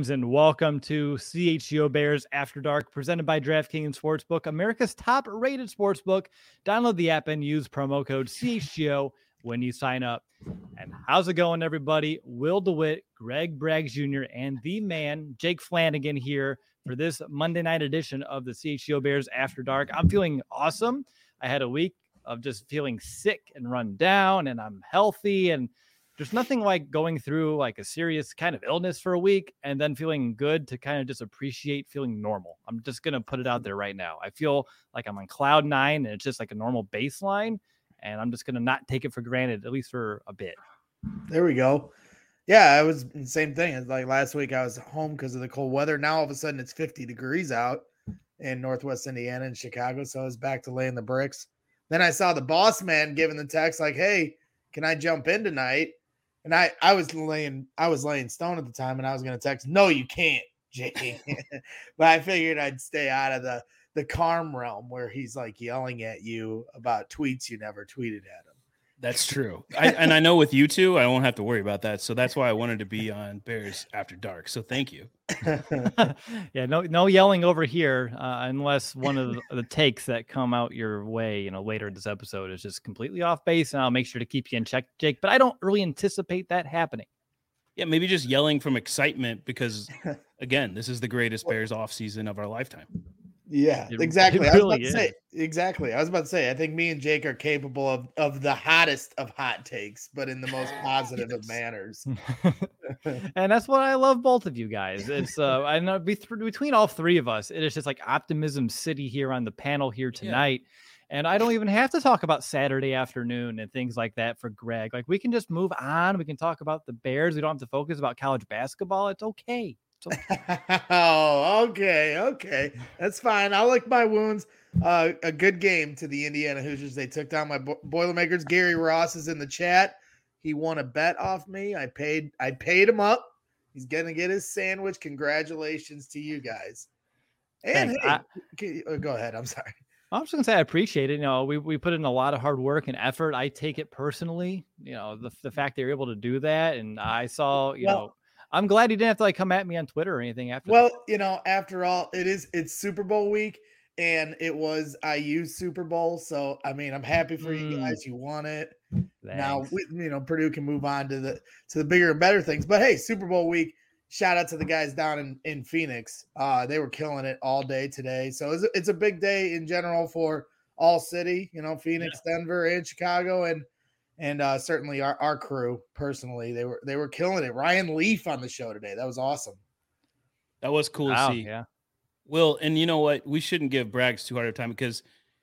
friends, and welcome to CHGO Bears After Dark, presented by DraftKings Sportsbook, America's top-rated sportsbook. Download the app and use promo code CHGO when you sign up. And how's it going, everybody? Will DeWitt, Greg Braggs Jr., and the man, Jake Flanagan, here for this Monday night edition of the CHGO Bears After Dark. I'm feeling awesome. I had a week of just feeling sick and run down, and I'm healthy, and there's nothing like going through like a serious kind of illness for a week and then feeling good to kind of just appreciate feeling normal. I'm just going to put it out there right now. I feel like I'm on cloud nine and it's just like a normal baseline, and I'm just going to not take it for granted, at least for a bit. There we go. Yeah, it was the same thing. It's like last week I was home because of the cold weather. Now all of a sudden it's 50 degrees out in Northwest Indiana and Chicago. So I was back to laying the bricks. Then I saw the boss man giving the text like, hey, can I jump in tonight? And I was laying stone at the time, and I was going to text, no, you can't, Jake. But I figured I'd stay out of the calm realm where he's like yelling at you about tweets you never tweeted at him. That's true. I know with you two, I won't have to worry about that. So that's why I wanted to be on Bears After Dark. So thank you. Yeah, no yelling over here unless one of the takes that come out your way, later in this episode is just completely off base, and I'll make sure to keep you in check, Jake. But I don't really anticipate that happening. Yeah, maybe just yelling from excitement because, again, this is the greatest Bears offseason of our lifetime. Yeah, exactly. I was about to say, I think me and Jake are capable of the hottest of hot takes, but in the most positive of manners. And that's what I love both of you guys. It's I know between all three of us, it is just like optimism city here on the panel here tonight. Yeah. And I don't even have to talk about Saturday afternoon and things like that for Greg. Like, we can just move on. We can talk about the Bears. We don't have to focus about college basketball. It's okay. Oh, okay. That's fine. I'll lick my wounds. A good game to the Indiana Hoosiers. They took down my Boilermakers. Gary Ross is in the chat. He won a bet off me. I paid him up. He's going to get his sandwich. Congratulations to you guys. And hey, go ahead. I'm sorry. I'm just going to say I appreciate it. We put in a lot of hard work and effort. I take it personally, the fact they were able to do that. And I saw, I'm glad he didn't have to come at me on Twitter or anything after. Well, after all, it's Super Bowl week, and it was IU's Super Bowl. So, I mean, I'm happy for you guys. You won it. Thanks. Now, Purdue can move on to the bigger and better things. But hey, Super Bowl week, shout out to the guys down in Phoenix. They were killing it all day today. So it's a big day in general for all city, Phoenix, Denver, and Chicago, and certainly our crew personally, they were killing it. Ryan Leaf on the show today. That was awesome. That was cool to see. Yeah. Will, and you know what? We shouldn't give Braggs too hard of time because,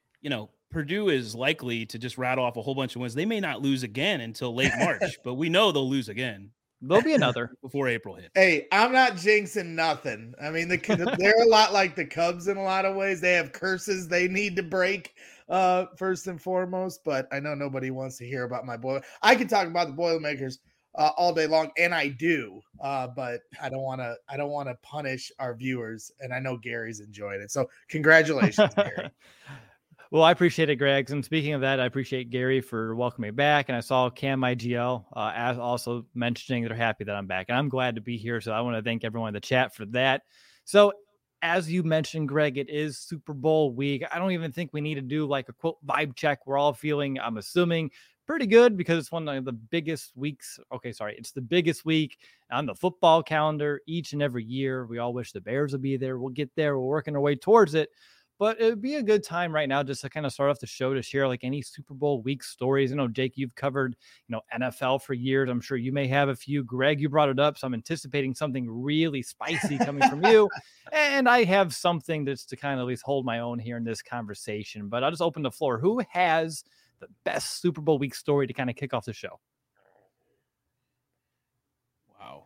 Purdue is likely to just rattle off a whole bunch of wins. They may not lose again until late March, but we know they'll lose again. There'll be another before April hits. Hey, I'm not jinxing nothing. I mean, they're a lot like the Cubs in a lot of ways. They have curses they need to break. First and foremost, but I know nobody wants to hear about my boy. I can talk about the Boilermakers all day long, and I do, but I don't want to punish our viewers, and I know Gary's enjoying it. So congratulations, Gary. Well, I appreciate it, Greg. And speaking of that, I appreciate Gary for welcoming me back. And I saw Cam IGL also mentioning they're happy that I'm back, and I'm glad to be here. So I want to thank everyone in the chat for that. So, as you mentioned, Greg, it is Super Bowl week. I don't even think we need to do like a quote vibe check. We're all feeling, I'm assuming, pretty good because it's one of the biggest weeks. Okay, sorry. It's the biggest week on the football calendar each and every year. We all wish the Bears would be there. We'll get there. We're working our way towards it. But it would be a good time right now just to kind of start off the show to share like any Super Bowl week stories. Jake, you've covered, NFL for years. I'm sure you may have a few. Greg, you brought it up. So I'm anticipating something really spicy coming from you. And I have something that's to kind of at least hold my own here in this conversation. But I'll just open the floor. Who has the best Super Bowl week story to kind of kick off the show? Wow.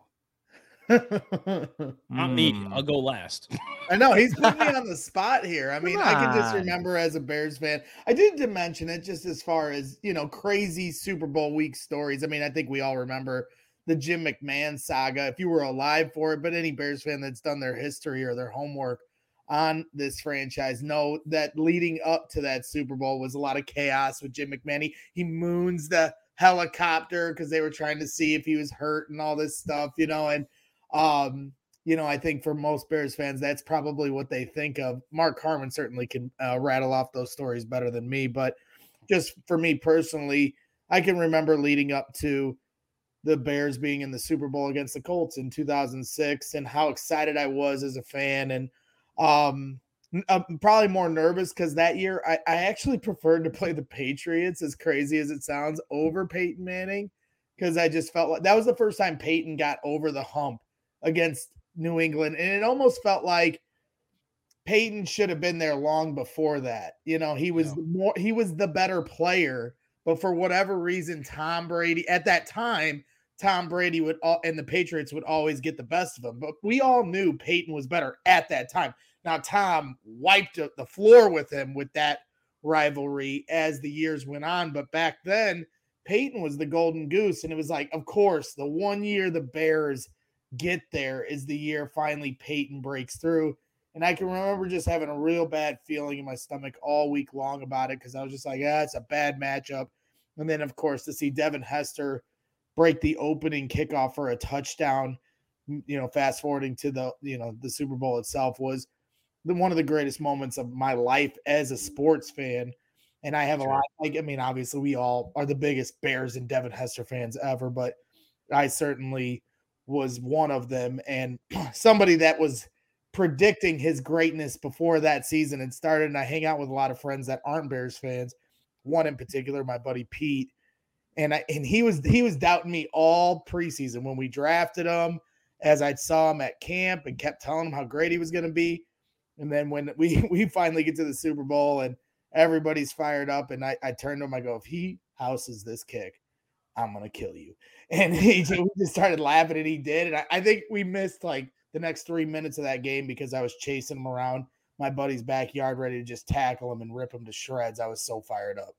Not me. I'll go last. I know he's putting me on the spot here. I mean, I can just remember as a Bears fan, I did to mention it just as far as, crazy Super Bowl week stories. I mean, I think we all remember the Jim McMahon saga, if you were alive for it, but any Bears fan that's done their history or their homework on this franchise know that leading up to that Super Bowl was a lot of chaos with Jim McMahon. He moons the helicopter because they were trying to see if he was hurt and all this stuff, and I think for most Bears fans, that's probably what they think of. Mark Harmon certainly can rattle off those stories better than me, but just for me personally, I can remember leading up to the Bears being in the Super Bowl against the Colts in 2006 and how excited I was as a fan. And I'm probably more nervous because that year I actually preferred to play the Patriots, as crazy as it sounds, over Peyton Manning, because I just felt like that was the first time Peyton got over the hump against New England. And it almost felt like Peyton should have been there long before that. He was the better player, but for whatever reason, Tom Brady at that time, and the Patriots would always get the best of him. But we all knew Peyton was better at that time. Now, Tom wiped the floor with him with that rivalry as the years went on. But back then, Peyton was the golden goose. And it was like, of course, the one year the Bears get there is the year finally Peyton breaks through. And I can remember just having a real bad feeling in my stomach all week long about it, because I was just like, it's a bad matchup. And then, of course, to see Devin Hester break the opening kickoff for a touchdown, fast forwarding to the Super Bowl itself, was one of the greatest moments of my life as a sports fan. And I have a lot, obviously we all are the biggest Bears and Devin Hester fans ever, but I certainly was one of them, and somebody that was predicting his greatness before that season and started. And I hang out with a lot of friends that aren't Bears fans. One in particular, my buddy Pete, and he was doubting me all preseason when we drafted him, as I saw him at camp and kept telling him how great he was going to be. And then when we finally get to the Super Bowl and everybody's fired up, and I turned to him, I go, if he houses this kick, I'm going to kill you. And we just started laughing, and he did. And I think we missed like the next 3 minutes of that game because I was chasing him around my buddy's backyard, ready to just tackle him and rip him to shreds. I was so fired up.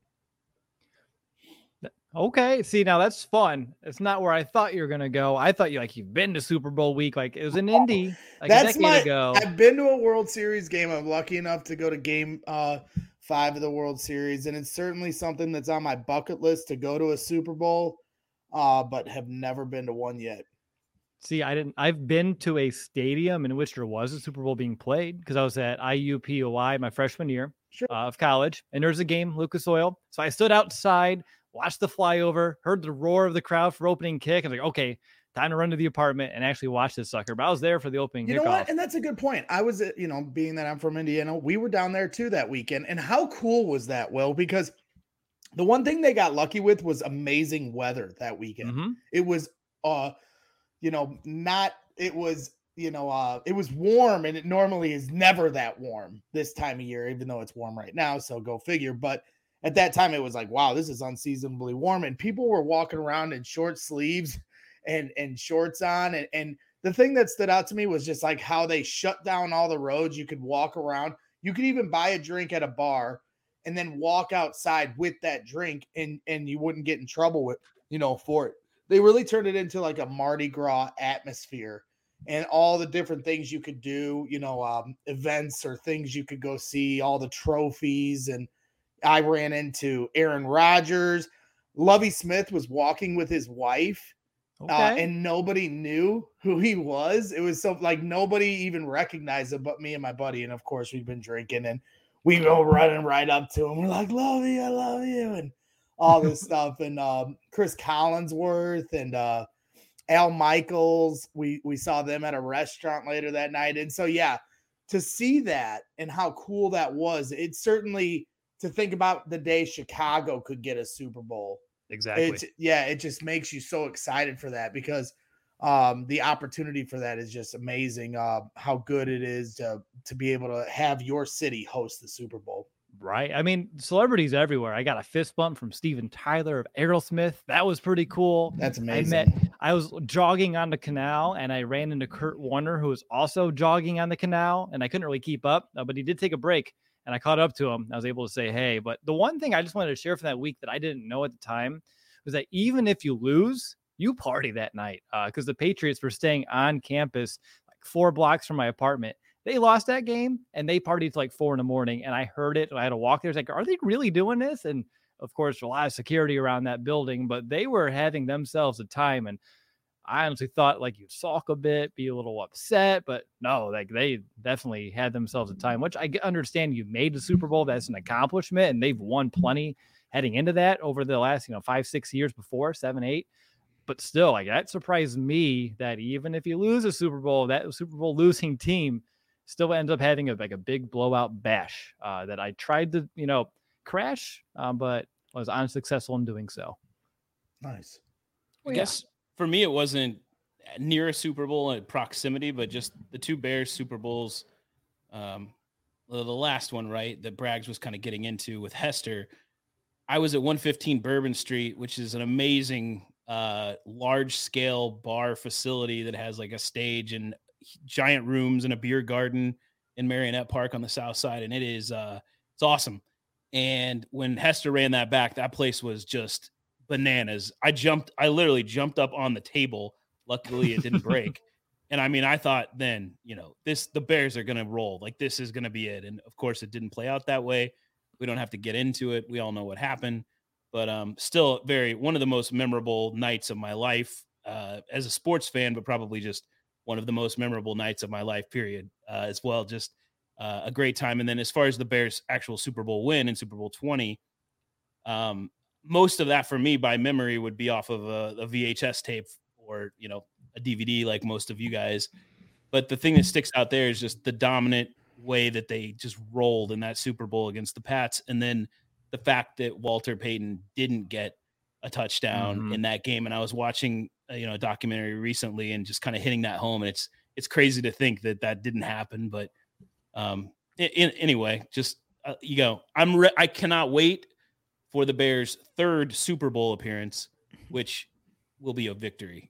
Okay. See, now that's fun. It's not where I thought you were going to go. I thought you've been to Super Bowl week. Like it was in Indy like a decade ago. I've been to a World Series game. I'm lucky enough to go to game 5 of the World Series. And it's certainly something that's on my bucket list to go to a Super Bowl, but have never been to one yet. See, I've been to a stadium in which there was a Super Bowl being played because I was at IUPUI my freshman year of college, and there's a game, Lucas Oil. So I stood outside, watched the flyover, heard the roar of the crowd for opening kick. I was like, okay, time to run to the apartment and actually watch this sucker. But I was there for the opening kickoff. You know what? And that's a good point. I was, being that I'm from Indiana, we were down there too that weekend. And how cool was that, Will? Because the one thing they got lucky with was amazing weather that weekend. Mm-hmm. It was, it was warm, and it normally is never that warm this time of year, even though it's warm right now. So go figure. But at that time, it was like, wow, this is unseasonably warm. And people were walking around in short sleeves and shorts on. And the thing that stood out to me was just like how they shut down all the roads. You could walk around. You could even buy a drink at a bar and then walk outside with that drink, and you wouldn't get in trouble for it. They really turned it into like a Mardi Gras atmosphere, and all the different things you could do, events or things you could go see, all the trophies. And I ran into Aaron Rodgers. Lovie Smith was walking with his wife, and nobody knew who he was. It was so like nobody even recognized him but me and my buddy. And of course, we've been drinking, and we go running right up to him. We're like, Lovie, I love you. And all this stuff. And Chris Collinsworth and Al Michaels, we saw them at a restaurant later that night. And so, yeah, to see that and how cool that was, it's certainly to think about the day Chicago could get a Super Bowl. Exactly. It just makes you so excited for that, because the opportunity for that is just amazing. How good it is to be able to have your city host the Super Bowl. Right. I mean, celebrities everywhere. I got a fist bump from Steven Tyler of Aerosmith. That was pretty cool. That's amazing. I was jogging on the canal, and I ran into Kurt Warner, who was also jogging on the canal, and I couldn't really keep up, but he did take a break, and I caught up to him. I was able to say, hey, but the one thing I just wanted to share from that week that I didn't know at the time was that even if you lose, you party that night, because the Patriots were staying on campus like 4 blocks from my apartment. They lost that game, and they partied till like 4 a.m. And I heard it. I had to walk there. I was like, are they really doing this? And of course, a lot of security around that building, but they were having themselves a time. And I honestly thought like you'd sulk a bit, be a little upset, but no, like they definitely had themselves a time, which I understand you made the Super Bowl. That's an accomplishment, and they've won plenty heading into that over the last, 5-6 years before, 7, 8. But still, like that surprised me that even if you lose a Super Bowl, that Super Bowl losing team still ends up having a big blowout bash that I tried to, crash, but was unsuccessful in doing so. Nice. I guess for me, it wasn't near a Super Bowl in proximity, but just the two Bears Super Bowls. The last one, right, that Braggs was kind of getting into with Hester. I was at 115 Bourbon Street, which is an amazing large scale bar facility that has like a stage and giant rooms and a beer garden in Marionette Park on the south side. And it is it's awesome. And when Hester ran that back, that place was just bananas. I literally jumped up on the table. Luckily it didn't break. And I mean, I thought then, the Bears are going to roll. Like this is going to be it. And of course it didn't play out that way. We don't have to get into it. We all know what happened. But still one of the most memorable nights of my life as a sports fan, but probably just one of the most memorable nights of my life, period, as well. Just a great time. And then as far as the Bears' actual Super Bowl win in Super Bowl 20, most of that for me by memory would be off of a VHS tape or, a DVD like most of you guys. But the thing that sticks out there is just the dominant way that they just rolled in that Super Bowl against the Pats. And then the fact that Walter Payton didn't get a touchdown in that game. And I was watching, a documentary recently and just kind of hitting that home. And it's crazy to think that didn't happen. But anyway, just, I cannot wait for the Bears' third Super Bowl appearance, which will be a victory.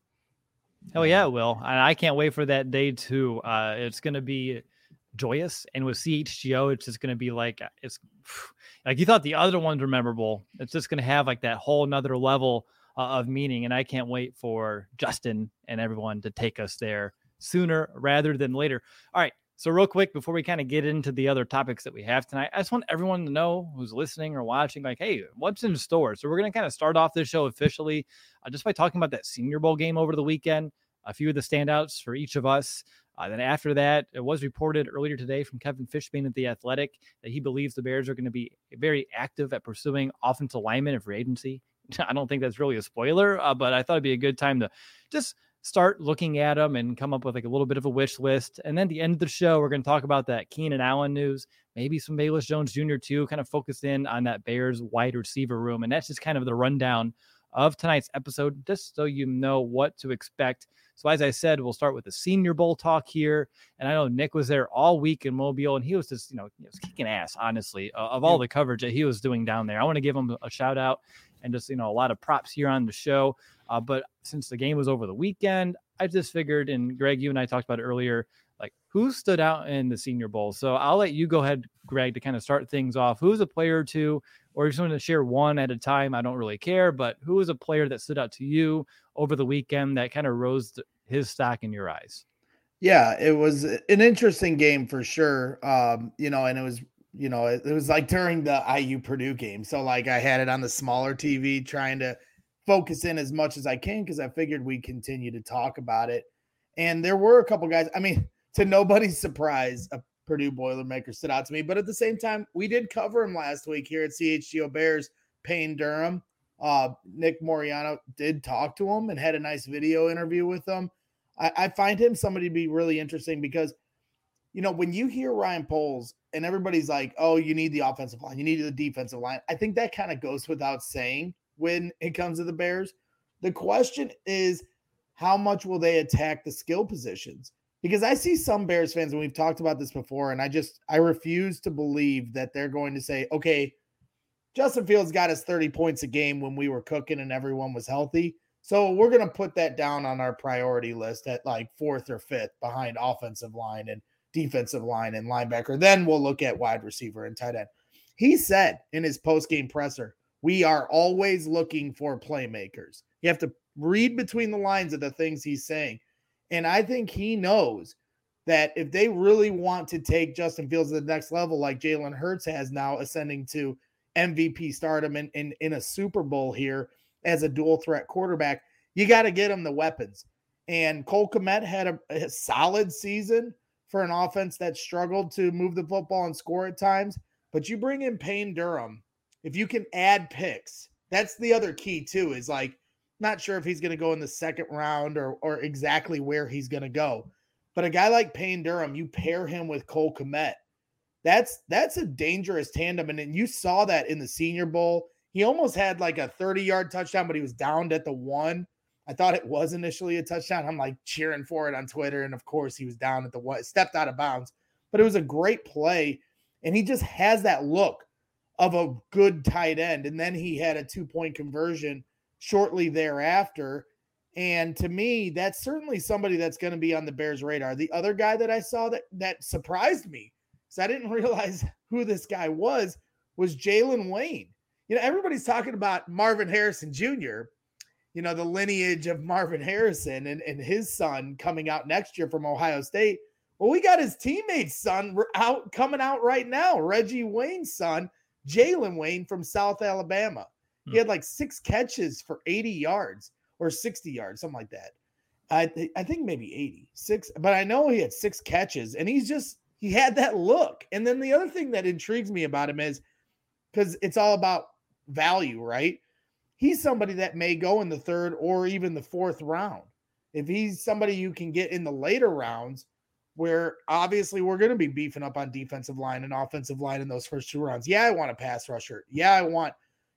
Oh yeah, it will. And I can't wait for that day too. It's going to be joyous, and with CHGO it's just going to be like, it's like you thought the other ones were memorable. It's just going to have like that whole nother level of meaning, and I can't wait for Justin and everyone to take us there sooner rather than later. All right, so real quick before we kind of get into the other topics that we have tonight, I just want everyone to know who's listening or watching, like, hey, what's in store? So we're going to kind of start off this show officially just by talking about that Senior Bowl game over the weekend, a few of the standouts for each of us. Then after that, it was reported earlier today from Kevin Fishbain at The Athletic that he believes the Bears are going to be very active at pursuing offensive linemen in free agency. I don't think that's really a spoiler, but I thought it'd be a good time to just start looking at them and come up with like a little bit of a wish list. And then at the end of the show, we're going to talk about that Keenan Allen news, maybe some Bayless Jones Jr. too, kind of focus in on that Bears wide receiver room. And that's just kind of the rundown of tonight's episode, just so you know what to expect. So as I said, we'll start with the Senior Bowl talk here. And I know Nick was there all week in Mobile, and he was just, he was kicking ass, honestly, of all the coverage that he was doing down there. I want to give him a shout out and just, a lot of props here on the show. But since the game was over the weekend, I just figured, and Greg, you and I talked about it earlier, like who stood out in the Senior Bowl. So I'll let you go ahead, Greg, to kind of start things off. Who's a player or two, or if you want to share one at a time, I don't really care, but who is a player that stood out to you over the weekend that kind of rose his stock in your eyes? Yeah, it was an interesting game for sure. And it was, it was like during the IU Purdue game. So like I had it on the smaller TV trying to focus in as much as I can because I figured we'd continue to talk about it. And there were a couple guys, I mean, to nobody's surprise, a Purdue Boilermaker stood out to me. But at the same time, we did cover him last week here at CHGO Bears, Payne Durham. Nick Moriano did talk to him and had a nice video interview with him. I find him somebody to be really interesting because, when you hear Ryan Poles and everybody's like, oh, you need the offensive line, you need the defensive line. I think that kind of goes without saying when it comes to the Bears. The question is, how much will they attack the skill positions? Because I see some Bears fans, and we've talked about this before, and I refuse to believe that they're going to say, okay, Justin Fields got us 30 points a game when we were cooking and everyone was healthy. So we're going to put that down on our priority list at like 4th or 5th behind offensive line and defensive line and linebacker. Then we'll look at wide receiver and tight end. He said in his post-game presser, we are always looking for playmakers. You have to read between the lines of the things he's saying. And I think he knows that if they really want to take Justin Fields to the next level, like Jalen Hurts has now ascending to MVP stardom in a Super Bowl here as a dual threat quarterback, you got to get him the weapons. And Cole Kmet had a solid season for an offense that struggled to move the football and score at times. But you bring in Payne Durham, if you can add picks, that's the other key too, is like, not sure if he's going to go in the second round or exactly where he's going to go. But a guy like Payne Durham, you pair him with Cole Kmet. That's a dangerous tandem. And then you saw that in the Senior Bowl. He almost had like a 30-yard touchdown, but he was downed at the 1. I thought it was initially a touchdown. I'm like cheering for it on Twitter. And of course he was down at the 1, stepped out of bounds, but it was a great play. And he just has that look of a good tight end. And then he had a 2-point conversion shortly thereafter. And to me, that's certainly somebody that's going to be on the Bears' radar. The other guy that I saw that surprised me, because I didn't realize who this guy was Jalen Wayne. Everybody's talking about Marvin Harrison Jr., the lineage of Marvin Harrison and his son coming out next year from Ohio State. Well, we got his teammate's son coming out right now, Reggie Wayne's son, Jalen Wayne from South Alabama. He had like 6 catches for 80 yards or 60 yards, something like that. I think maybe 86, but I know he had 6 catches, and he had that look. And then the other thing that intrigues me about him is, because it's all about value, right? He's somebody that may go in the 3rd or even the 4th round. If he's somebody you can get in the later rounds, where obviously we're going to be beefing up on defensive line and offensive line in those first 2 rounds. Yeah, I want a pass rusher. Yeah, I want,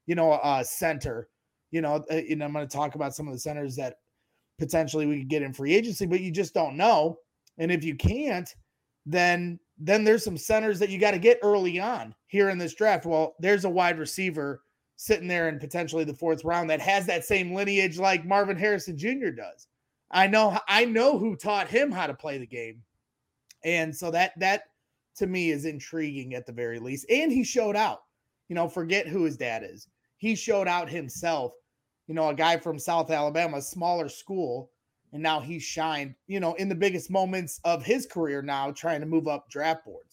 a center. And I'm going to talk about some of the centers that potentially we could get in free agency, but you just don't know. And if you can't, then there's some centers that you got to get early on here in this draft. Well, there's a wide receiver sitting there in potentially the 4th round that has that same lineage like Marvin Harrison Jr. does. I know who taught him how to play the game. And so that to me is intriguing at the very least. And he showed out, forget who his dad is. He showed out himself, a guy from South Alabama, a smaller school. And now he shined, in the biggest moments of his career now, trying to move up draft boards.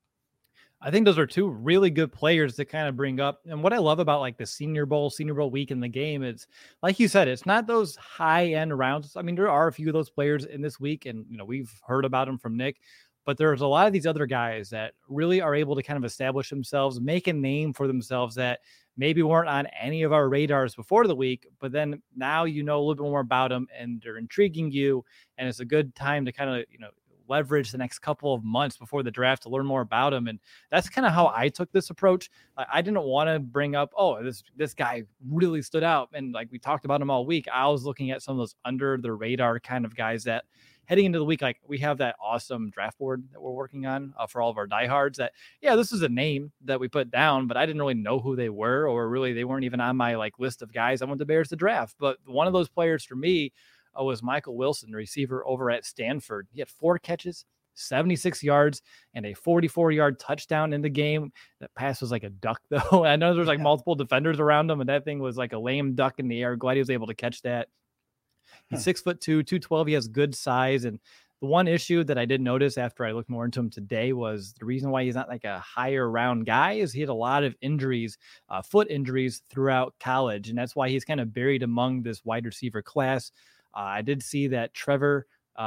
I think those are 2 really good players to kind of bring up. And what I love about like the Senior Bowl week in the game is, like you said, it's not those high end rounds. I mean, there are a few of those players in this week, and we've heard about them from Nick, but there's a lot of these other guys that really are able to kind of establish themselves, make a name for themselves that maybe weren't on any of our radars before the week, but then now a little bit more about them and they're intriguing you. And it's a good time to kind of, leverage the next couple of months before the draft to learn more about him. And that's kind of how I took this approach. I didn't want to bring up, this guy really stood out. And like we talked about him all week, I was looking at some of those under the radar kind of guys that heading into the week, like we have that awesome draft board that we're working on for all of our diehards that, this is a name that we put down, but I didn't really know who they were, or really they weren't even on my like list of guys I want the Bears to draft. But one of those players for me was Michael Wilson, receiver over at Stanford. He had 4 catches, 76 yards, and a 44-yard touchdown in the game. That pass was like a duck, though. I know there's like multiple defenders around him, and that thing was like a lame duck in the air. Glad he was able to catch that. He's 6'2", 212. He has good size. And the one issue that I did notice after I looked more into him today was the reason why he's not like a higher round guy is he had a lot of injuries, foot injuries throughout college. And that's why he's kind of buried among this wide receiver class. I did see that Trevor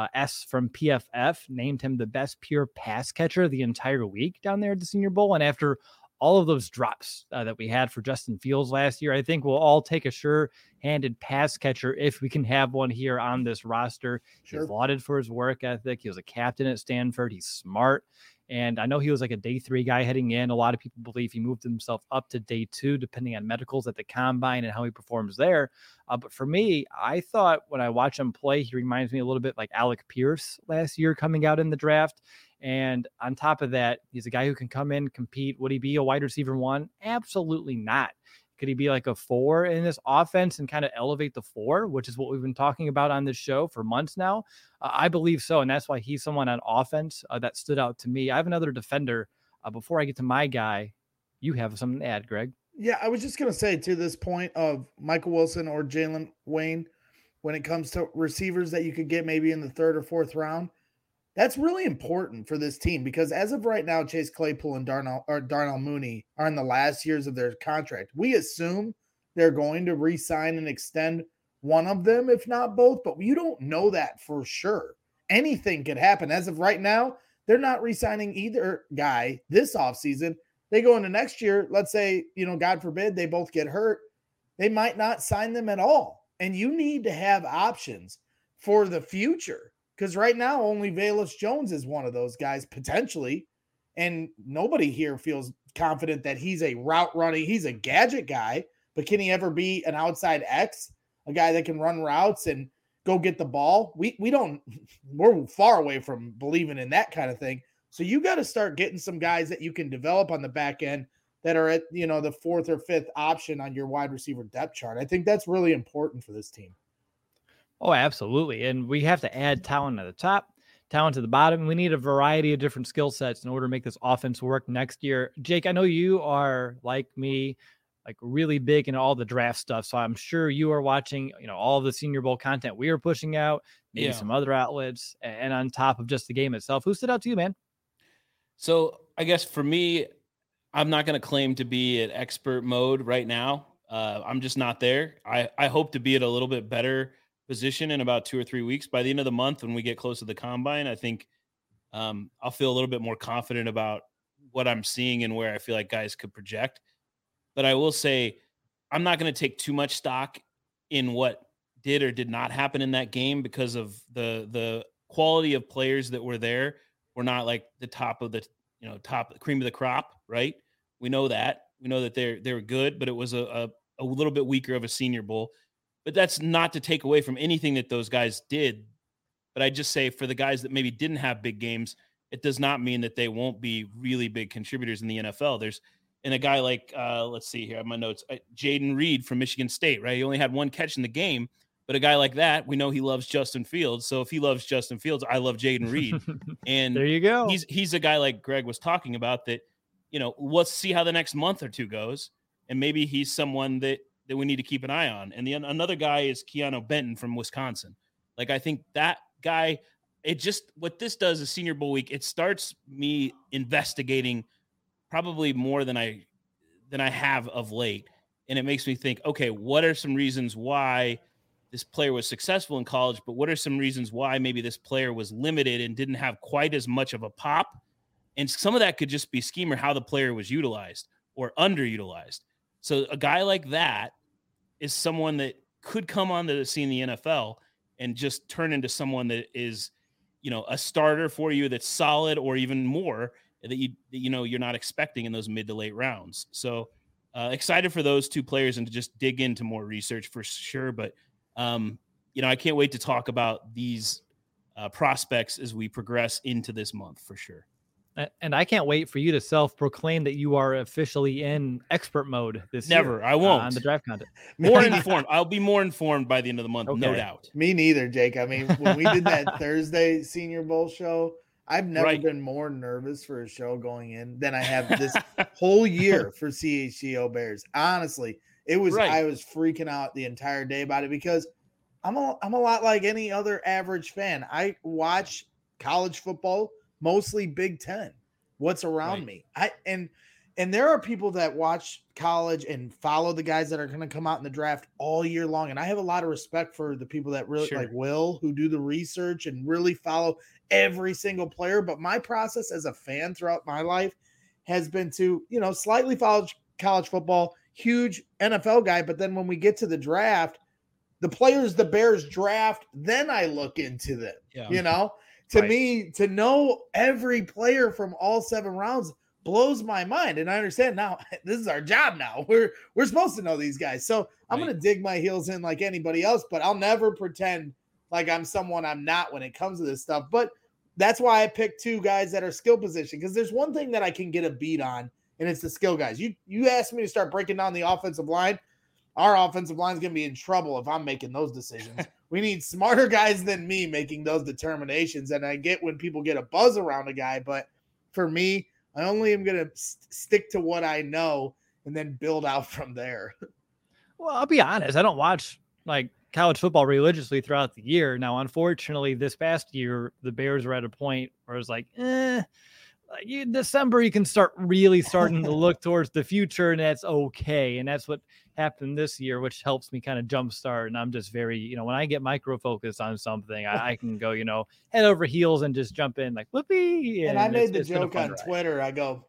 S from PFF named him the best pure pass catcher the entire week down there at the Senior Bowl. And after all of those drops that we had for Justin Fields last year, I think we'll all take a sure-handed pass catcher if we can have one here on this roster. Sure. He's lauded for his work ethic. He was a captain at Stanford. He's smart. And I know he was like a day 3 guy heading in. A lot of people believe he moved himself up to day 2, depending on medicals at the combine and how he performs there. But for me, I thought when I watch him play, he reminds me a little bit like Alec Pierce last year coming out in the draft. And on top of that, he's a guy who can come in, compete. Would he be a wide receiver 1? Absolutely not. Could he be like a 4 in this offense and kind of elevate the 4, which is what we've been talking about on this show for months now? I believe so. And that's why he's someone on offense that stood out to me. I have another defender. Before I get to my guy, you have something to add, Greg. Yeah, I was just going to say, to this point of Michael Wilson or Jalen Wayne, when it comes to receivers that you could get maybe in the 3rd or 4th round, that's really important for this team, because as of right now, Chase Claypool and Darnell Mooney are in the last years of their contract. We assume they're going to re-sign and extend one of them, if not both, but you don't know that for sure. Anything could happen. As of right now, they're not re-signing either guy this offseason. They go into next year, let's say, God forbid, they both get hurt. They might not sign them at all. And you need to have options for the future, because right now only Velus Jones is one of those guys potentially. And nobody here feels confident that he's a route running. He's a gadget guy, but can he ever be an outside X, a guy that can run routes and go get the ball? We're far away from believing in that kind of thing. So you got to start getting some guys that you can develop on the back end that are at, the fourth or fifth option on your wide receiver depth chart. I think that's really important for this team. Oh, absolutely. And we have to add talent at the top, talent at the bottom. We need a variety of different skill sets in order to make this offense work next year. Jake, I know you are, like me, like really big into all the draft stuff. So I'm sure you are watching, all of the Senior Bowl content we are pushing out, maybe some other outlets, and on top of just the game itself. Who stood out to you, man? So I guess for me, I'm not going to claim to be at expert mode right now. I'm just not there. I hope to be at a little bit better position in about 2 or 3 weeks. By the end of the month, when we get close to the combine, I think I'll feel a little bit more confident about what I'm seeing and where I feel like guys could project. But I will say, I'm not going to take too much stock in what did or did not happen in that game, because of the quality of players that were there were not like the top of the top cream of the crop, right? We know that they were good, but it was a little bit weaker of a Senior Bowl. But that's not to take away from anything that those guys did. But I just say, for the guys that maybe didn't have big games, it does not mean that they won't be really big contributors in the NFL. And a guy like, let's see here, I have my notes, Jaden Reed from Michigan State, right? He only had one catch in the game, but a guy like that, we know he loves Justin Fields. So if he loves Justin Fields, I love Jaden Reed. And there you go. He's a guy like Greg was talking about that, let's see how the next month or two goes. And maybe he's someone that we need to keep an eye on. And another guy is Keanu Benton from Wisconsin. Like, I think that guy, what this does is Senior Bowl week, it starts me investigating probably more than I have of late. And it makes me think, okay, what are some reasons why this player was successful in college, but what are some reasons why maybe this player was limited and didn't have quite as much of a pop? And some of that could just be scheme or how the player was utilized or underutilized. So a guy like that is someone that could come onto the scene in the NFL and just turn into someone that is, a starter for you that's solid, or even more, that you're not expecting in those mid to late rounds. So excited for those two players and to just dig into more research for sure. But I can't wait to talk about these prospects as we progress into this month for sure. And I can't wait for you to self-proclaim that you are officially in expert mode this Never. year. I won't. On the draft content. More informed. I'll be more informed by the end of the month, Okay. No doubt. Me neither, Jake. I mean, when we did that Thursday Senior Bowl show, I've never been more nervous for a show going in than I have this whole year for CHGO Bears. Honestly, it was I was freaking out the entire day about it, because I'm a lot like any other average fan. I watch college football, mostly Big Ten, what's around me. And there are people that watch college and follow the guys that are going to come out in the draft all year long. And I have a lot of respect for the people that really like Will, who do the research and really follow every single player. But my process as a fan throughout my life has been to, slightly follow college football, huge NFL guy. But then when we get to the draft, the players the Bears draft, then I look into them, To me, to know every player from all 7 rounds blows my mind. And I understand now this is our job now. We're supposed to know these guys. So I'm going to dig my heels in like anybody else, but I'll never pretend like I'm someone I'm not when it comes to this stuff. But that's why I picked 2 guys that are skill position, because there's one thing that I can get a beat on, and it's the skill guys. You asked me to start breaking down the offensive line. Our offensive line is going to be in trouble if I'm making those decisions. We need smarter guys than me making those determinations. And I get when people get a buzz around a guy, but for me, I only am going to stick to what I know and then build out from there. Well, I'll be honest. I don't watch like college football religiously throughout the year. Now, unfortunately, this past year, the Bears were at a point where it's like, December, you can start really starting to look towards the future, and that's okay. And that's what happened this year, which helps me kind of jumpstart. And I'm just very, when I get micro focused on something, I can go, head over heels and just jump in like whoopee. And I made the joke on Twitter. I go,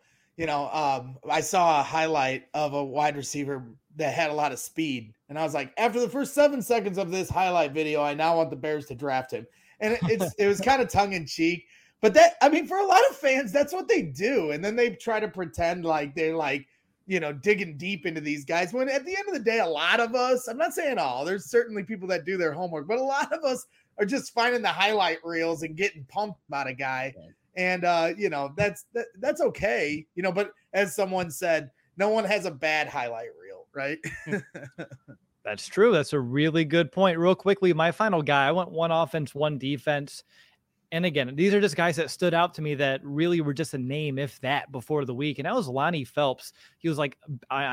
I saw a highlight of a wide receiver that had a lot of speed. And I was like, after the first 7 seconds of this highlight video, I now want the Bears to draft him. And it was kind of tongue in cheek. But for a lot of fans, that's what they do. And then they try to pretend like they're like, digging deep into these guys. When at the end of the day, a lot of us, I'm not saying all, there's certainly people that do their homework, but a lot of us are just finding the highlight reels and getting pumped about a guy. And, that's okay. But as someone said, no one has a bad highlight reel, right? That's true. That's a really good point. Real quickly, my final guy, I went 1 offense, 1 defense. And again, these are just guys that stood out to me that really were just a name, if that, before the week. And that was Lonnie Phelps. He was like,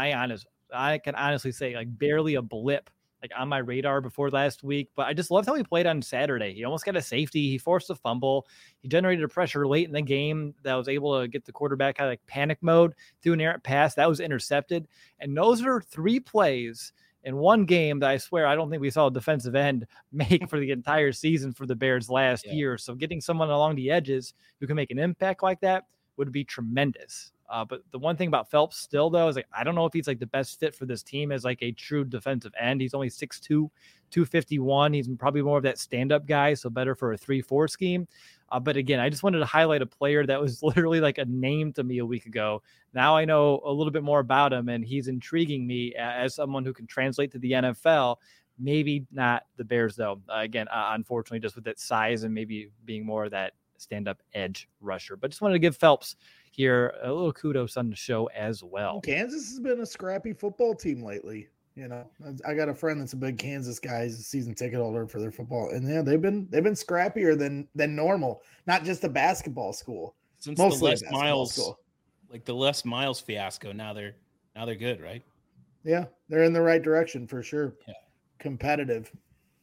I can honestly say, like, barely a blip, like, on my radar before last week. But I just loved how he played on Saturday. He almost got a safety. He forced a fumble. He generated a pressure late in the game that was able to get the quarterback out of like panic mode through an errant pass that was intercepted. And those are 3 plays in one game that I swear I don't think we saw a defensive end make for the entire season for the Bears last year. So getting someone along the edges who can make an impact like that would be tremendous. But the one thing about Phelps still, though, is like, I don't know if he's like the best fit for this team as like a true defensive end. He's only 6'2", 251. He's probably more of that stand-up guy, so better for a 3-4 scheme. But again, I just wanted to highlight a player that was literally like a name to me a week ago. Now I know a little bit more about him, and he's intriguing me as someone who can translate to the NFL. Maybe not the Bears, though. Again, unfortunately, just with that size and maybe being more of that stand-up edge rusher. But just wanted to give Phelps here a little kudos on the show as well. Kansas has been a scrappy football team lately. I got a friend that's a big Kansas guy. He's a season ticket holder for their football, and they've been scrappier than normal. Not just a basketball school. Since mostly the Les Miles school. Like the Les Miles fiasco. Now they're good, right? Yeah, they're in the right direction for sure. Yeah, competitive.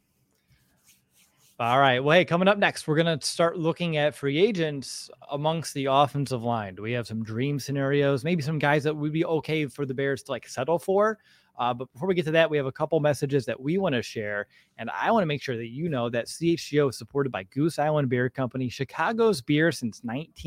All right. Well, hey, coming up next, we're going to start looking at free agents amongst the offensive line. Do we have some dream scenarios? Maybe some guys that would be okay for the Bears to like settle for. But before we get to that, we have a couple messages that we want to share. And I want to make sure that you know that CHGO is supported by Goose Island Beer Company, Chicago's beer since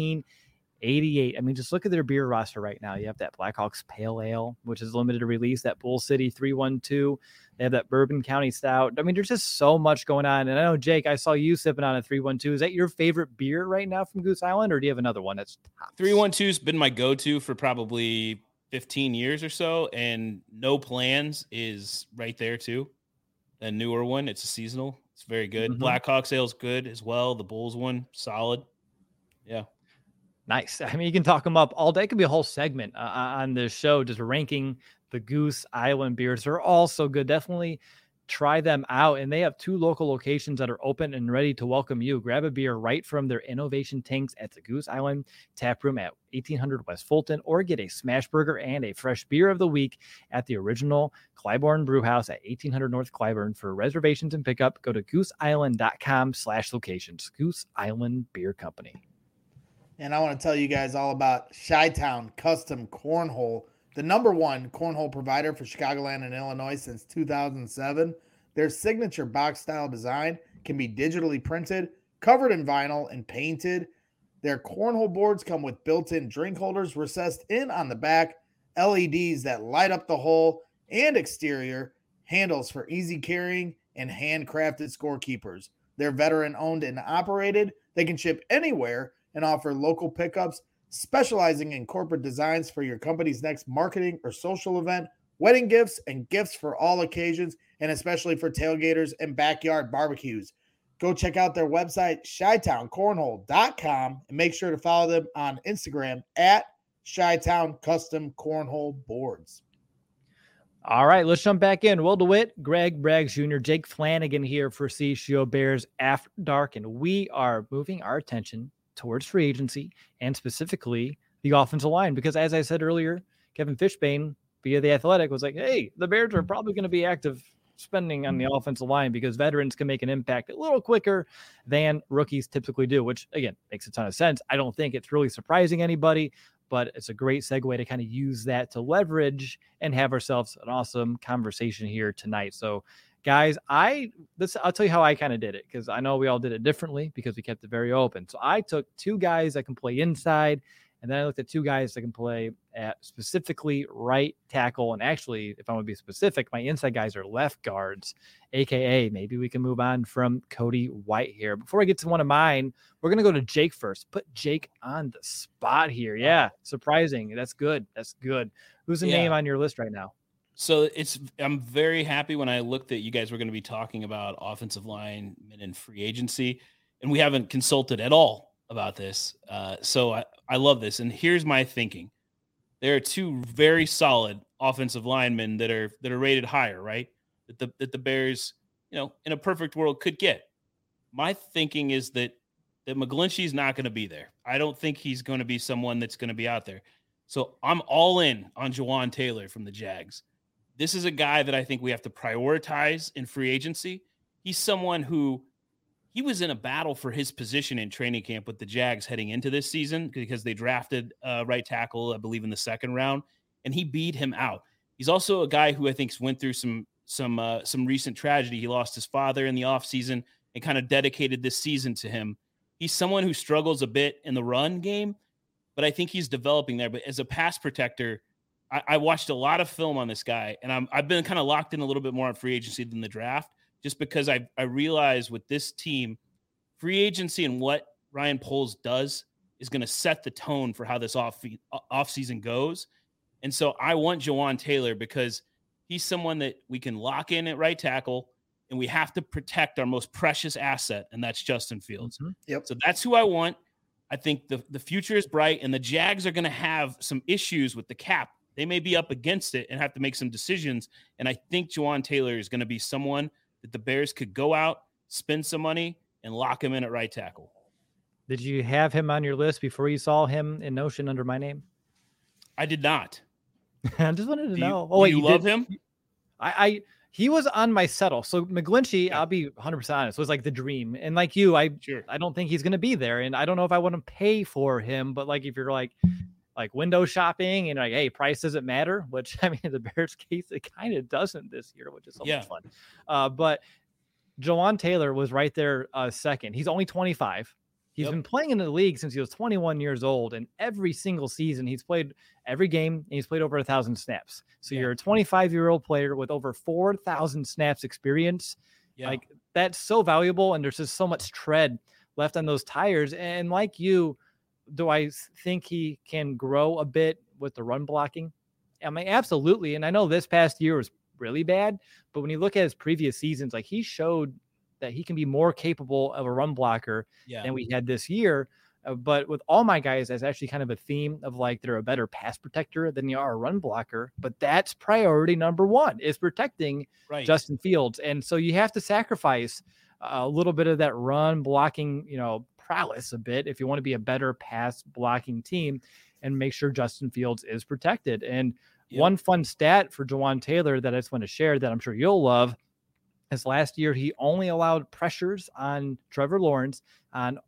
1988. I mean, just look at their beer roster right now. You have that Blackhawks Pale Ale, which is limited release, that Bull City 312. They have that Bourbon County Stout. I mean, there's just so much going on. And I know, Jake, I saw you sipping on a 312. Is that your favorite beer right now from Goose Island, or do you have another one that's tops? 312's been my go-to for probably 15 years or so, and No Plans is right there too. A newer one. It's a seasonal. It's very good. Mm-hmm. Blackhawks Ale's good as well. The Bulls one, solid. Yeah. Nice. I mean, you can talk them up all day. It could be a whole segment on this show, just ranking the Goose Island beers. They're all so good. Definitely try them out. And they have 2 local locations that are open and ready to welcome you. Grab a beer right from their innovation tanks at the Goose Island Tap Room at 1800 West Fulton, or get a smash burger and a fresh beer of the week at the original Clybourne Brewhouse at 1800 North Clybourne. For reservations and pickup, go to gooseisland.com/locations. Goose Island Beer Company. And I want to tell you guys all about Chi-Town Custom Cornhole, the #1 cornhole provider for Chicagoland and Illinois since 2007. Their signature box-style design can be digitally printed, covered in vinyl, and painted. Their cornhole boards come with built-in drink holders recessed in on the back, LEDs that light up the hole, and exterior handles for easy carrying and handcrafted scorekeepers. They're veteran-owned and operated. They can ship anywhere and offer local pickups, specializing in corporate designs for your company's next marketing or social event, wedding gifts, and gifts for all occasions, and especially for tailgaters and backyard barbecues. Go check out their website, ChiTownCornhole.com, and make sure to follow them on Instagram at Chi-Town Custom Cornhole Boards. All right, let's jump back in. Will DeWitt, Greg Braggs Jr., Jake Flanagan here for CHGO Bears After Dark, and we are moving our attention towards free agency and specifically the offensive line, because as I said earlier, Kevin Fishbane via The Athletic was like, hey, the Bears are probably going to be active spending on the offensive line because veterans can make an impact a little quicker than rookies typically do, which again makes a ton of sense. I don't think it's really surprising anybody, but it's a great segue to kind of use that to leverage and have ourselves an awesome conversation here tonight. So guys, I'll tell you how I kind of did it, because I know we all did it differently because we kept it very open. So I took two guys that can play inside, and then I looked at two guys that can play at specifically right tackle. And actually, if I want to be specific, my inside guys are left guards, AKA maybe we can move on from Cody White here. Before I get to one of mine, we're going to go to Jake first. Put Jake on the spot here. Yeah, surprising. That's good. That's good. Who's the name on your list right now? So I'm very happy when I looked at you guys were going to be talking about offensive linemen and free agency, and we haven't consulted at all about this. So I love this. And here's my thinking. There are two very solid offensive linemen that are rated higher, right? That the Bears, in a perfect world could get. My thinking is that McGlinchey's not going to be there. I don't think he's going to be someone that's going to be out there. So I'm all in on Jawaan Taylor from the Jags. This is a guy that I think we have to prioritize in free agency. He's someone who he was in a battle for his position in training camp with the Jags heading into this season because they drafted right tackle, I believe, in the second round, and he beat him out. He's also a guy who I think went through some recent tragedy. He lost his father in the offseason and kind of dedicated this season to him. He's someone who struggles a bit in the run game, but I think he's developing there. But as a pass protector, I watched a lot of film on this guy, and I've been kind of locked in a little bit more on free agency than the draft, just because I realize with this team, free agency and what Ryan Poles does is going to set the tone for how this offseason goes. And so I want Jawaan Taylor because he's someone that we can lock in at right tackle, and we have to protect our most precious asset, and that's Justin Fields. Mm-hmm. Yep. So that's who I want. I think the future is bright, and the Jags are going to have some issues with the cap. They may be up against it and have to make some decisions. And I think Jawaan Taylor is going to be someone that the Bears could go out, spend some money, and lock him in at right tackle. Did you have him on your list before you saw him in Notion under my name? I did not. I just wanted to know. Do you love him? He was on my settle. So McGlinchey, I'll be 100% honest, was like the dream. And like you, I don't think he's going to be there. And I don't know if I want to pay for him, but like if you're like window shopping and like, hey, price doesn't matter, which I mean, in the Bears case, it kind of doesn't this year, which is so much fun. But Jawaan Taylor was right there second. He's only 25. He's been playing in the league since he was 21 years old, and every single season he's played every game, and he's played over 1,000 snaps. So you're a 25-year-old player with over 4,000 snaps experience. Like that's so valuable, and there's just so much tread left on those tires. And like you, do I think he can grow a bit with the run blocking? I mean, absolutely. And I know this past year was really bad, but when you look at his previous seasons, like he showed that he can be more capable of a run blocker than we had this year. But with all my guys, that's actually kind of a theme of like they're a better pass protector than they are a run blocker. But that's priority number one is protecting Justin Fields. And so you have to sacrifice a little bit of that run blocking, prowess a bit if you want to be a better pass blocking team and make sure Justin Fields is protected. And one fun stat for Jawaan Taylor that I just want to share that I'm sure you'll love is last year he only allowed pressures on Trevor Lawrence on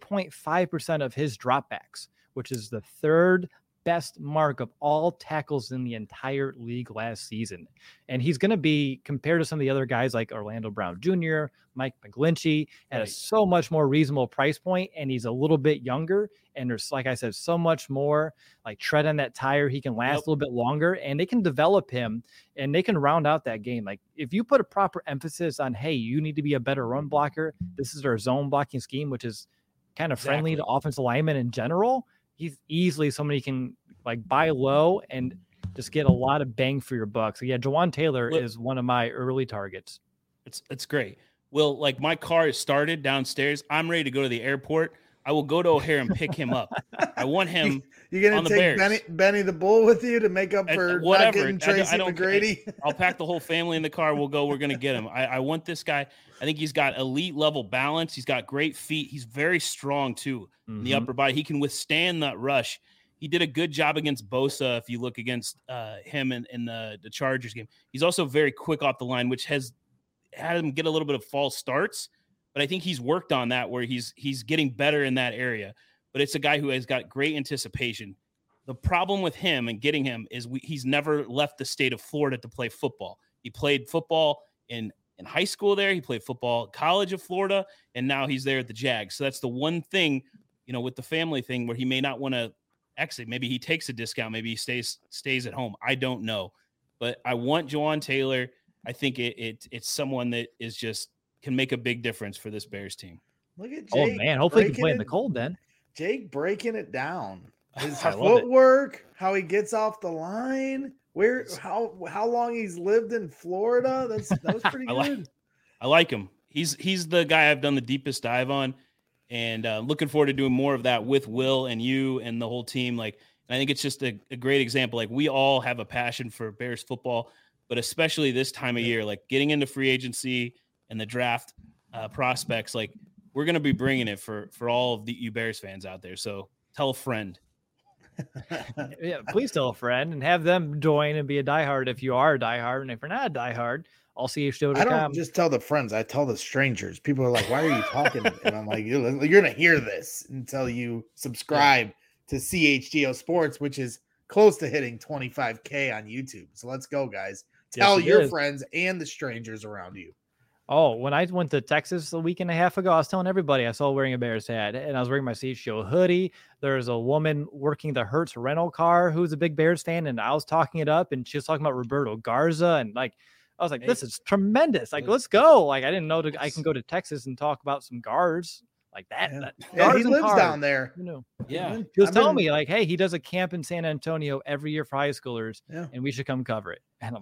2.5% of his dropbacks, which is the third best mark of all tackles in the entire league last season. And he's going to be compared to some of the other guys like Orlando Brown Jr., Mike McGlinchey at a so much more reasonable price point. And he's a little bit younger. And there's, like I said, so much more like tread on that tire. He can last a little bit longer, and they can develop him and they can round out that game. Like if you put a proper emphasis on, hey, you need to be a better run blocker. This is our zone blocking scheme, which is kind of friendly to offensive linemen in general. He's easily somebody you can like buy low and just get a lot of bang for your buck. So yeah, Jawaan Taylor is one of my early targets. It's great. Well, like my car is started downstairs. I'm ready to go to the airport. I will go to O'Hare and pick him up. I want him. You're going to take Benny the Bull with you to make up for not getting Tracy McGrady? I'll pack the whole family in the car. We'll go. We're going to get him. I want this guy. I think he's got elite level balance. He's got great feet. He's very strong too in the upper body. He can withstand that rush. He did a good job against Bosa. If you look against him in the Chargers game, he's also very quick off the line, which has had him get a little bit of false starts. But I think he's worked on that where he's getting better in that area. But it's a guy who has got great anticipation. The problem with him and getting him is he's never left the state of Florida to play football. He played football in high school there. He played football at College of Florida, and now he's there at the Jags. So that's the one thing, with the family thing where he may not want to exit. Maybe he takes a discount. Maybe he stays at home. I don't know. But I want Jawaan Taylor. I think it's someone that is just can make a big difference for this Bears team. Look at Jake. Oh, man. Hopefully he can play in the cold then. Jake breaking it down. His footwork, how he gets off the line, how long he's lived in Florida. That was pretty good. I like him. He's the guy I've done the deepest dive on, and looking forward to doing more of that with Will and you and the whole team. And I think it's just a great example. Like, we all have a passion for Bears football, but especially this time of year, like getting into free agency and the draft prospects. Like, we're going to be bringing it for all of you Bears fans out there. So tell a friend. Yeah, please tell a friend and have them join and be a diehard if you are a diehard. And if you're not a diehard, I'll see you show. I don't just tell the friends, I tell the strangers. People are like, why are you talking? And I'm like, you're going to hear this until you subscribe to CHGO Sports, which is close to hitting 25K on YouTube. So let's go, guys. Tell your friends and the strangers around you. Oh, when I went to Texas a week and a half ago, I was telling everybody I saw wearing a Bears hat, and I was wearing my CHGO hoodie. There's a woman working the Hertz rental car who's a big Bears fan, and I was talking it up, and she was talking about Roberto Garza, and I was like, this is tremendous. Like, let's go. Like, I didn't know I can go to Texas and talk about some guards like that. Yeah, he lives down there. Yeah. He was telling me, like, hey, he does a camp in San Antonio every year for high schoolers, and we should come cover it. And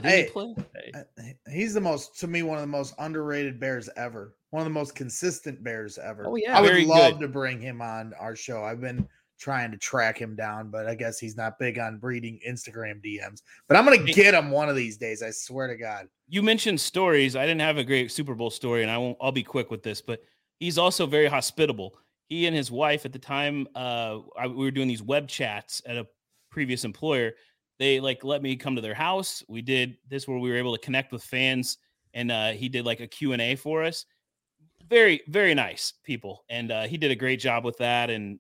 he's one of the most underrated Bears ever. One of the most consistent Bears ever. Oh, yeah. I would love to bring him on our show. I've been trying to track him down, but I guess he's not big on reading Instagram DMs. But I'm going to get him one of these days. I swear to God. You mentioned stories. I didn't have a great Super Bowl story, and I'll be quick with this, but he's also very hospitable. He and his wife at the time, we were doing these web chats at a previous employer. They let me come to their house. We did this where we were able to connect with fans, and he did a Q&A for us. Very, very nice people. And he did a great job with that. And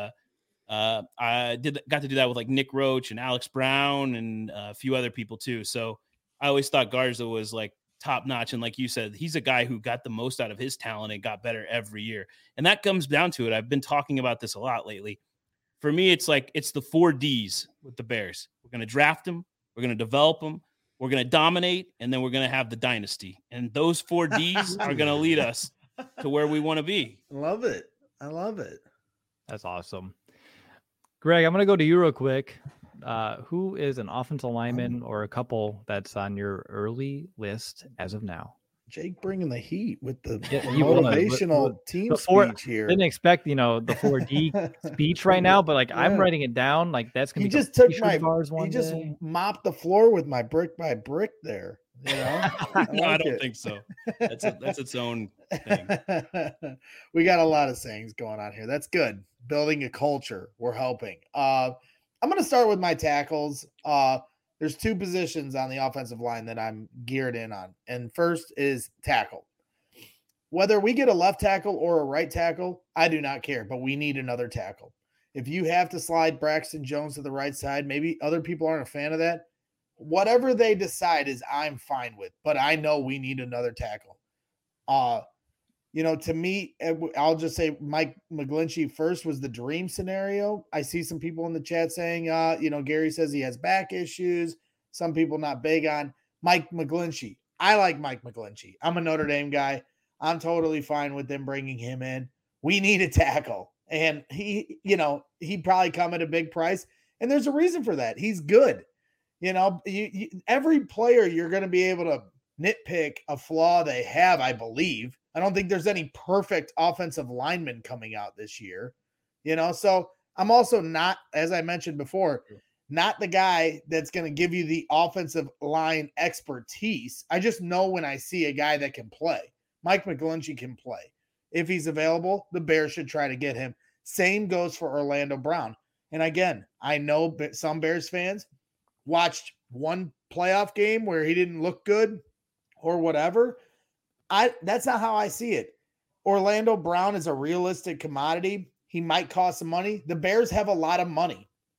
I got to do that with Nick Roach and Alex Brown and a few other people too. So I always thought Garza was top notch. And like you said, he's a guy who got the most out of his talent and got better every year. And that comes down to it. I've been talking about this a lot lately. For me, it's the 4 Ds with the Bears. We're going to draft them. We're going to develop them. We're going to dominate. And then we're going to have the dynasty. And those 4 Ds are going to lead us to where we want to be. Love it. I love it. That's awesome. Greg, I'm going to go to you real quick. Who is an offensive lineman or a couple that's on your early list as of now? Jake bringing the heat with the motivational team speech here. Didn't expect, the 4D speech right now, but I'm writing it down. That's going to be. He just took he just mopped the floor with my brick by brick there. I don't think so. That's its own thing. We got a lot of sayings going on here. That's good. Building a culture. We're helping. I'm going to start with my tackles. There's 2 positions on the offensive line that I'm geared in on. And first is tackle. Whether we get a left tackle or a right tackle, I do not care, but we need another tackle. If you have to slide Braxton Jones to the right side, maybe other people aren't a fan of that. Whatever they decide is I'm fine with, but I know we need another tackle. To me, I'll just say Mike McGlinchey first was the dream scenario. I see some people in the chat saying, Gary says he has back issues. Some people not big on Mike McGlinchey. I like Mike McGlinchey. I'm a Notre Dame guy. I'm totally fine with them bringing him in. We need a tackle. And he'd probably come at a big price. And there's a reason for that. He's good. Every player you're going to be able to nitpick a flaw they have, I believe. I don't think there's any perfect offensive lineman coming out this year, so I'm also not, as I mentioned before, not the guy that's going to give you the offensive line expertise. I just know when I see a guy that can play. Mike McGlinchey can play. If he's available, the Bears should try to get him. Same goes for Orlando Brown. And again, I know some Bears fans watched one playoff game where he didn't look good or whatever. That's not how I see it. Orlando Brown is a realistic commodity. He might cost some money. The Bears have a lot of money.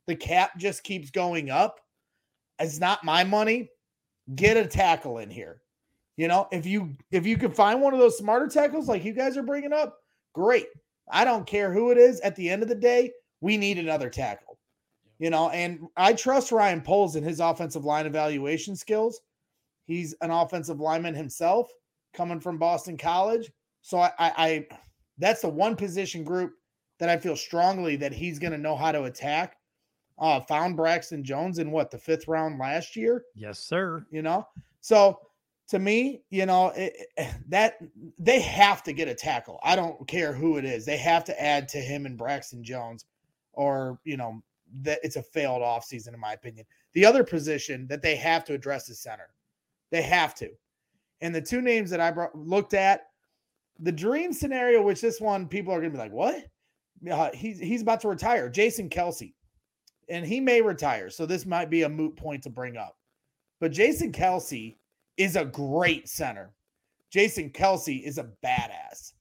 the cap just keeps going up. It's not my money. Get a tackle in here. If you can find one of those smarter tackles like you guys are bringing up, great. I don't care who it is. At the end of the day, we need another tackle. And I trust Ryan Poles in his offensive line evaluation skills. He's an offensive lineman himself, coming from Boston College. So I that's the one position group that I feel strongly that he's going to know how to attack. Found Braxton Jones in the 5th round last year. Yes, sir. So to me, that they have to get a tackle. I don't care who it is. They have to add to him and Braxton Jones, or, that it's a failed offseason, in my opinion. The other position that they have to address is center. They have to. And the two names that I looked at, the dream scenario, which this one, people are going to be like, what? He's about to retire. Jason Kelce. And he may retire, so this might be a moot point to bring up. But Jason Kelce is a great center. Jason Kelce is a badass.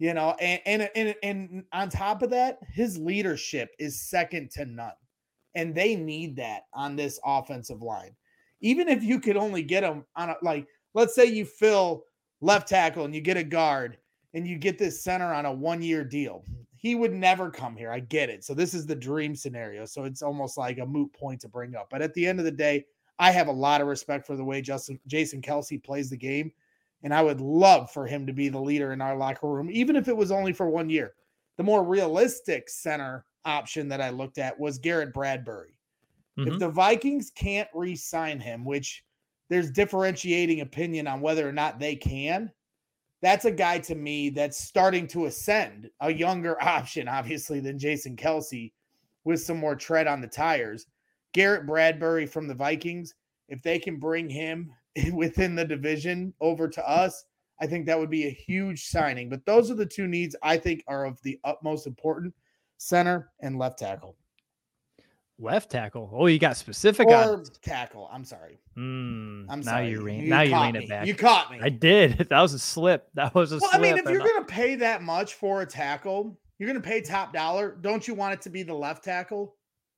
And on top of that, his leadership is second to none. And they need that on this offensive line. Even if you could only get him on let's say you fill left tackle and you get a guard and you get this center on a 1-year deal. He would never come here. I get it. So this is the dream scenario. So it's almost like a moot point to bring up. But at the end of the day, I have a lot of respect for the way Jason Kelce plays the game. And I would love for him to be the leader in our locker room, even if it was only for 1 year. The more realistic center option that I looked at was Garrett Bradbury. Mm-hmm. If the Vikings can't re-sign him, which there's differentiating opinion on whether or not they can, that's a guy to me that's starting to ascend, a younger option, obviously, than Jason Kelce with some more tread on the tires. Garrett Bradbury from the Vikings, if they can bring him within the division over to us, I think that would be a huge signing. But those are the two needs I think are of the utmost important: center and left tackle. Left tackle. Oh, you got specific or tackle. I'm sorry. I'm sorry. You ran it back. You caught me. I did. That was a slip. Slip. I mean, if you're going to pay that much for a tackle, you're going to pay top dollar. Don't you want it to be the left tackle?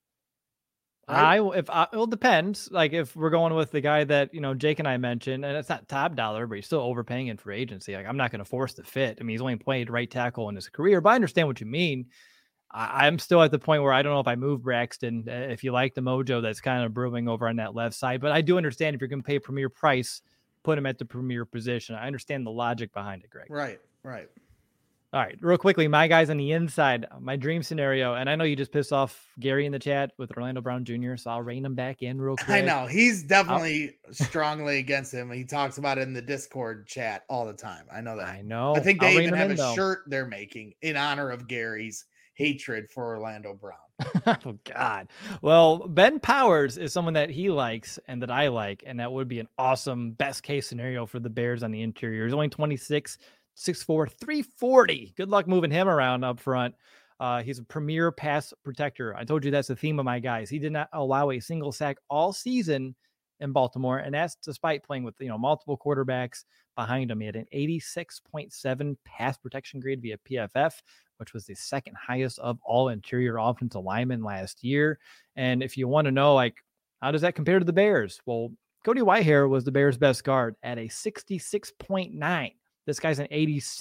Right? It depends. Like if we're going with the guy that, Jake and I mentioned, and it's not top dollar, but you're still overpaying in free agency. Like I'm not going to force the fit. I mean, he's only played right tackle in his career, but I understand what you mean. I'm still at the point where I don't know if I move Braxton, if you like the mojo that's kind of brewing over on that left side, but I do understand if you're going to pay a premier price, put him at the premier position. I understand the logic behind it, Greg. Right. All right, real quickly, my guys on the inside, my dream scenario, and I know you just pissed off Gary in the chat with Orlando Brown Jr., so I'll rein him back in real quick. I know. He's definitely strongly against him. He talks about it in the Discord chat all the time. I know that. I know. I think they even have a shirt they're making in honor of Gary's hatred for Orlando Brown. Oh, God. Well, Ben Powers is someone that he likes and that I like, and that would be an awesome best-case scenario for the Bears on the interior. He's only 26, 6'4", 340. Good luck moving him around up front. He's a premier pass protector. I told you that's the theme of my guys. He did not allow a single sack all season in Baltimore, and that's despite playing with multiple quarterbacks behind him. He had an 86.7 pass protection grade via PFF, which was the second highest of all interior offensive linemen last year. And if you want to know, how does that compare to the Bears? Well, Cody Whitehair was the Bears' best guard at a 66.9. This guy's an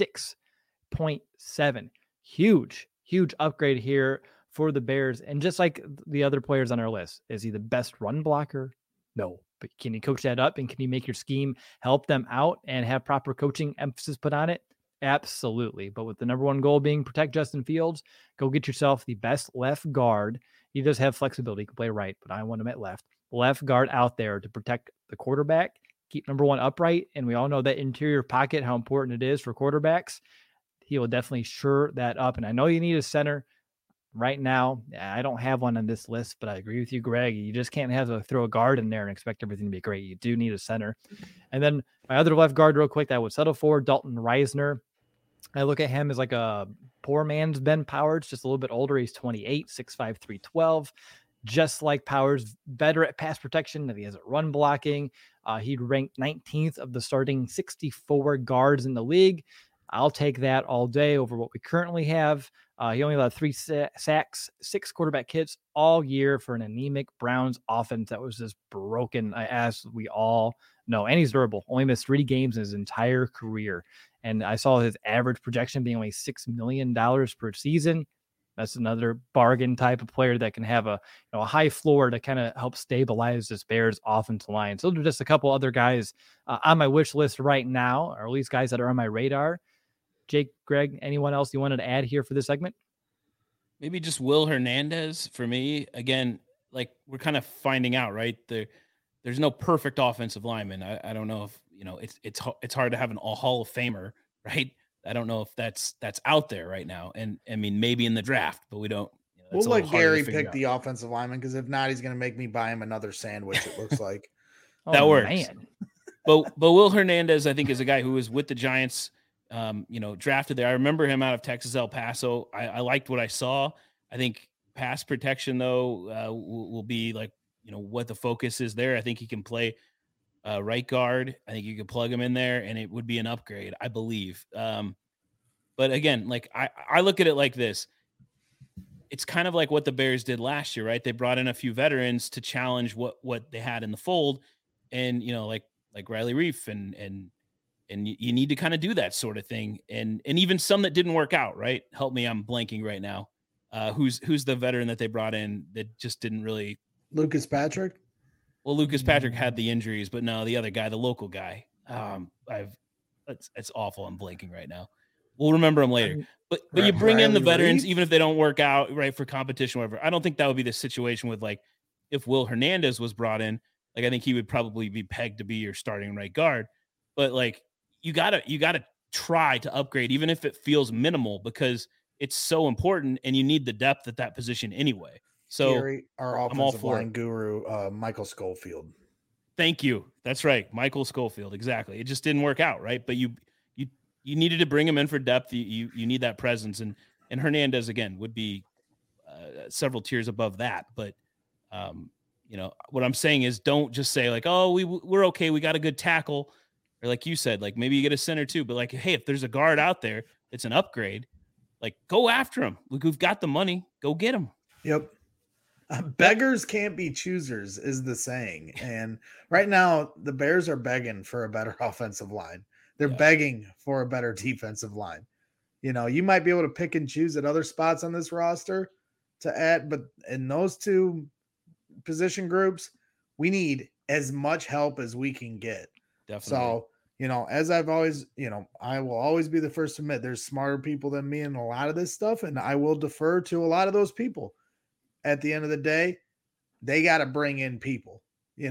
86.7. Huge upgrade here for the Bears. And just like the other players on our list, is he the best run blocker? No. But can you coach that up and can you make your scheme help them out and have proper coaching emphasis put on it? Absolutely. But with the number one goal being protect Justin Fields, go get yourself the best left guard. He does have flexibility. He can play right, but I want him at left. Left guard out there to protect the quarterback, keep number one upright. And we all know that interior pocket, how important it is for quarterbacks. He will definitely shore that up. And I know you need a center right now. I don't have one on this list, but I agree with you, Greg. You just can't have to throw a guard in there and expect everything to be great. You do need a center. And then my other left guard real quick that I would settle for, Dalton Reisner. I look at him as like a poor man's Ben Powers, just a little bit older. He's 28, 6'5", 312. Just like Powers, better at pass protection than he has at run blocking. He'd ranked 19th of the starting 64 guards in the league. I'll take that all day over what we currently have. He only allowed 3 sacks, 6 quarterback hits all year for an anemic Browns offense that was just broken, as we all know. And he's durable. Only missed 3 games in his entire career. And I saw his average projection being only $6 million per season. That's another bargain type of player that can have a high floor to kind of help stabilize this Bears offensive line. So those are just a couple other guys on my wish list right now, or at least guys that are on my radar. Jake, Greg, anyone else you wanted to add here for this segment? Maybe just Will Hernandez for me. Again, like we're kind of finding out, right? There's no perfect offensive lineman. I don't know if it's hard to have an all Hall of Famer, right? I don't know if that's out there right now. And I mean, maybe in the draft, but we don't. We'll let Gary pick the offensive lineman, because if not, he's going to make me buy him another sandwich. It looks like that works. Man. But Will Hernandez, I think, is a guy who was with the Giants. Drafted there. I remember him out of Texas El Paso. I liked what I saw. I think pass protection though will be like what the focus is there. I think he can play right guard. I think you could plug him in there and it would be an upgrade, I believe. But again, like I look at it like this. It's kind of like what the Bears did last year, right? They brought in a few veterans to challenge what they had in the fold, and like Riley Reif and you need to kind of do that sort of thing. And even some that didn't work out, right? Help me, I'm blanking right now. Who's the veteran that they brought in that just didn't really? Lucas Patrick. Well, Lucas Patrick had the injuries, but no, the other guy, the local guy. It's awful. I'm blanking right now. We'll remember him later. But you bring in the veterans, even if they don't work out, right, for competition, whatever. I don't think that would be the situation with like if Will Hernandez was brought in. Like I think he would probably be pegged to be your starting right guard. But like you gotta try to upgrade, even if it feels minimal, because it's so important and you need the depth at that position anyway. So Gary, our offensive line guru, Michael Schofield. Thank you. That's right. Michael Schofield. Exactly. It just didn't work out. Right. But you needed to bring him in for depth. You need that presence, and Hernandez again would be several tiers above that. But what I'm saying is don't just say like, oh, we're okay. We got a good tackle. Or like you said, like maybe you get a center too, but like, hey, if there's a guard out there, it's an upgrade. Like go after him. Like we've got the money. Go get him. Yep. Beggars can't be choosers is the saying. And right now the Bears are begging for a better offensive line. They're begging for a better defensive line. You might be able to pick and choose at other spots on this roster to add, but in those two position groups, we need as much help as we can get. Definitely. So, as I've always, I will always be the first to admit there's smarter people than me in a lot of this stuff, and I will defer to a lot of those people. At the end of the day, they got to bring in people,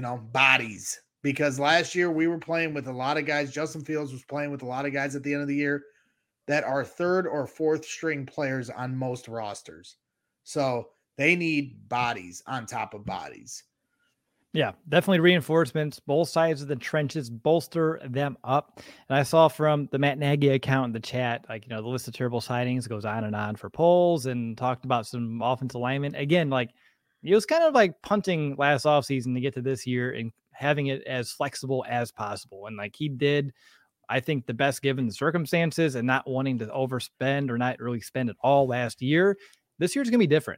bodies. Because last year we were playing with a lot of guys. Justin Fields was playing with a lot of guys at the end of the year that are third or fourth string players on most rosters. So they need bodies on top of bodies. Yeah, definitely reinforcements. Both sides of the trenches, bolster them up. And I saw from the Matt Nagy account in the chat, like, the list of terrible sightings goes on and on for polls, and talked about some offensive linemen. Again, like it was kind of like punting last offseason to get to this year and having it as flexible as possible. And like he did, I think, the best given the circumstances, and not wanting to overspend or not really spend it all last year. This year's going to be different,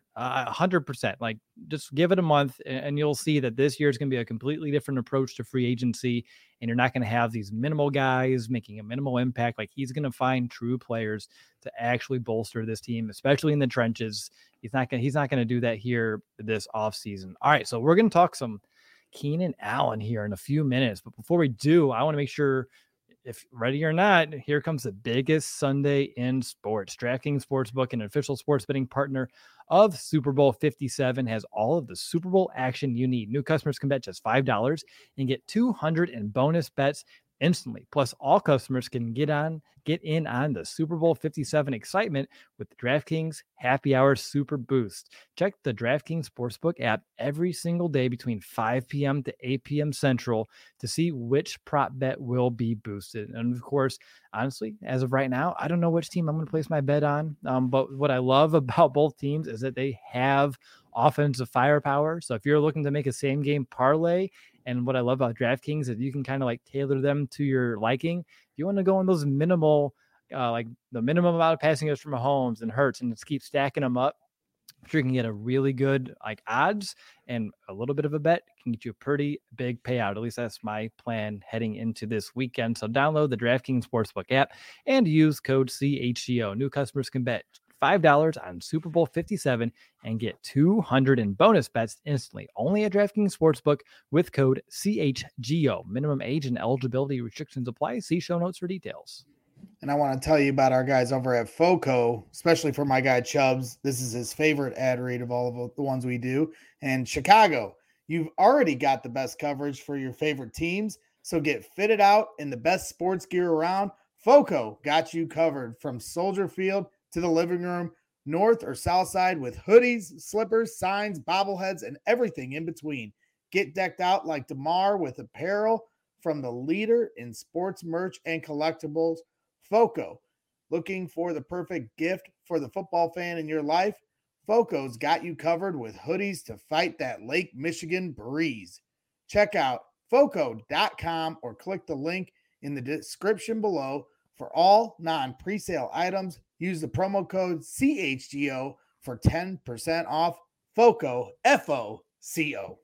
100%. Like just give it a month and you'll see that this year is going to be a completely different approach to free agency. And you're not going to have these minimal guys making a minimal impact. Like he's going to find true players to actually bolster this team, especially in the trenches. He's not going to do that here this offseason. All right. So we're going to talk some Keenan Allen here in a few minutes. But before we do, I want to make sure, if ready or not, here comes the biggest Sunday in sports. DraftKings Sportsbook, an official sports betting partner of Super Bowl 57, has all of the Super Bowl action you need. New customers can bet just $5 and get $200 in bonus bets instantly. Plus, all customers can get in on the Super Bowl 57 excitement with the DraftKings Happy Hour Super Boost. Check the DraftKings Sportsbook app every single day between 5 p.m. to 8 p.m. Central to see which prop bet will be boosted. And of course, honestly, as of right now, I don't know which team I'm going to place my bet on. But what I love about both teams is that they have offensive firepower. So if you're looking to make a same game parlay, and what I love about DraftKings is you can kind of like tailor them to your liking. If you want to go on those minimal like the minimum amount of passing yards from Mahomes and Hurts and just keep stacking them up, sure you can get a really good like odds, and a little bit of a bet can get you a pretty big payout. At least that's my plan heading into this weekend. So download the DraftKings Sportsbook app and use code CHGO. New customers can bet $5 on Super Bowl 57 and get $200 in bonus bets instantly. Only at DraftKings Sportsbook with code CHGO. Minimum age and eligibility restrictions apply. See show notes for details. And I want to tell you about our guys over at FOCO, especially for my guy Chubbs. This is his favorite ad read of all of the ones we do. And Chicago, you've already got the best coverage for your favorite teams. So get fitted out in the best sports gear around. FOCO got you covered from Soldier Field to the living room, north or south side, with hoodies, slippers, signs, bobbleheads, and everything in between. Get decked out like DeMar with apparel from the leader in sports merch and collectibles, FOCO. Looking for the perfect gift for the football fan in your life? FOCO's got you covered with hoodies to fight that Lake Michigan breeze. Check out FOCO.com or click the link in the description below. For all non-presale items, use the promo code CHGO for 10% off. FOCO, FOCO.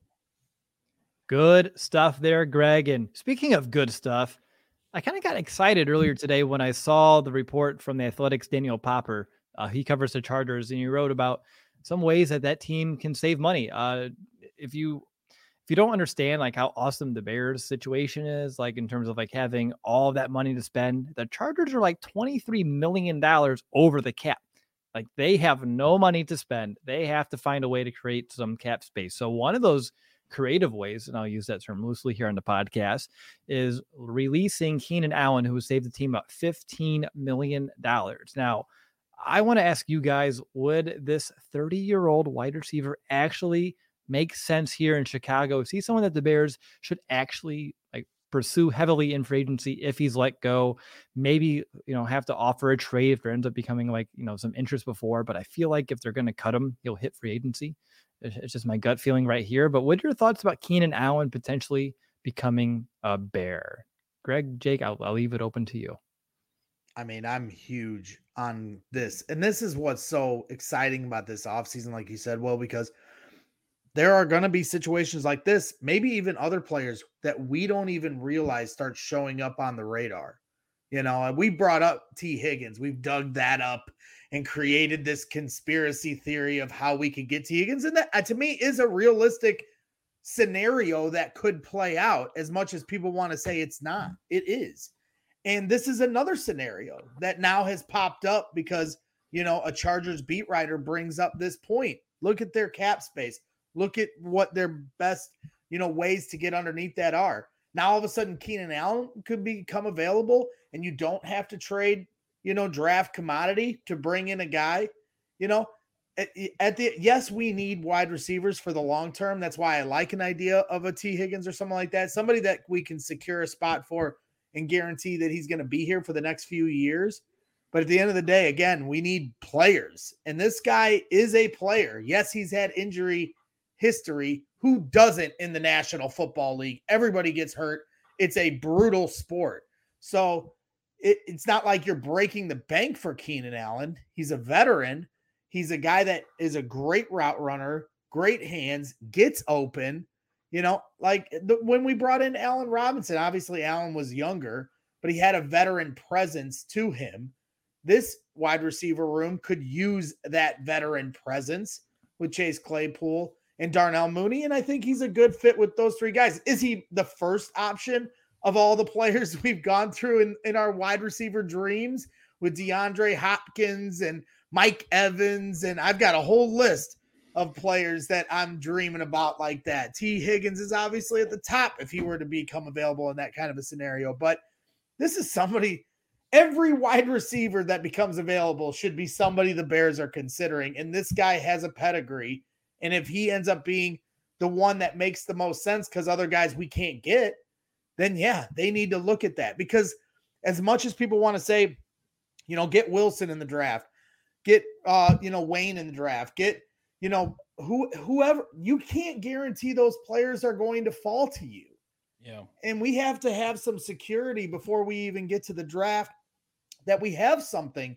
Good stuff there, Greg. And speaking of good stuff, I kind of got excited earlier today when I saw the report from the Athletics' Daniel Popper. He covers the Chargers, and he wrote about some ways that team can save money. If you don't understand like how awesome the Bears situation is, like in terms of like having all of that money to spend, the Chargers are like $23 million over the cap. Like they have no money to spend. They have to find a way to create some cap space. So one of those creative ways, and I'll use that term loosely here on the podcast, is releasing Keenan Allen, who has saved the team about $15 million. Now, I want to ask you guys, would this 30-year-old wide receiver actually make sense here in Chicago? Is he someone that the Bears should actually like pursue heavily in free agency if he's let go? Maybe, have to offer a trade if there ends up becoming like, some interest before, but I feel like if they're going to cut him, he'll hit free agency. It's just my gut feeling right here. But what are your thoughts about Keenan Allen potentially becoming a Bear? Greg, Jake, I'll leave it open to you. I mean, I'm huge on this. And this is what's so exciting about this offseason, like you said, Will, because there are going to be situations like this, maybe even other players that we don't even realize start showing up on the radar. We brought up T. Higgins. We've dug that up and created this conspiracy theory of how we could get T. Higgins. And that, to me, is a realistic scenario that could play out, as much as people want to say it's not. It is. And this is another scenario that now has popped up because, a Chargers beat writer brings up this point. Look at their cap space. Look at what their best, ways to get underneath that are. Now, all of a sudden, Keenan Allen could become available, and you don't have to trade, draft commodity to bring in a guy. Yes, we need wide receivers for the long term. That's why I like an idea of a T. Higgins or something like that. Somebody that we can secure a spot for and guarantee that he's going to be here for the next few years. But at the end of the day, again, we need players. And this guy is a player. Yes, he's had injury history. Who doesn't in the National Football League? Everybody gets hurt. It's a brutal sport. So it's not like you're breaking the bank for Keenan Allen. He's a veteran. He's a guy that is a great route runner, great hands, gets open. When we brought in Allen Robinson, obviously Allen was younger, but he had a veteran presence to him. This wide receiver room could use that veteran presence with Chase Claypool and Darnell Mooney, and I think he's a good fit with those three guys. Is he the first option of all the players we've gone through in our wide receiver dreams with DeAndre Hopkins and Mike Evans? And I've got a whole list of players that I'm dreaming about like that. T. Higgins is obviously at the top if he were to become available in that kind of a scenario. But this is somebody, every wide receiver that becomes available should be somebody the Bears are considering. And this guy has a pedigree. And if he ends up being the one that makes the most sense because other guys we can't get, then yeah, they need to look at that. Because as much as people want to say, get Wilson in the draft, get, Wayne in the draft, get, whoever, you can't guarantee those players are going to fall to you. Yeah. And we have to have some security before we even get to the draft that we have something,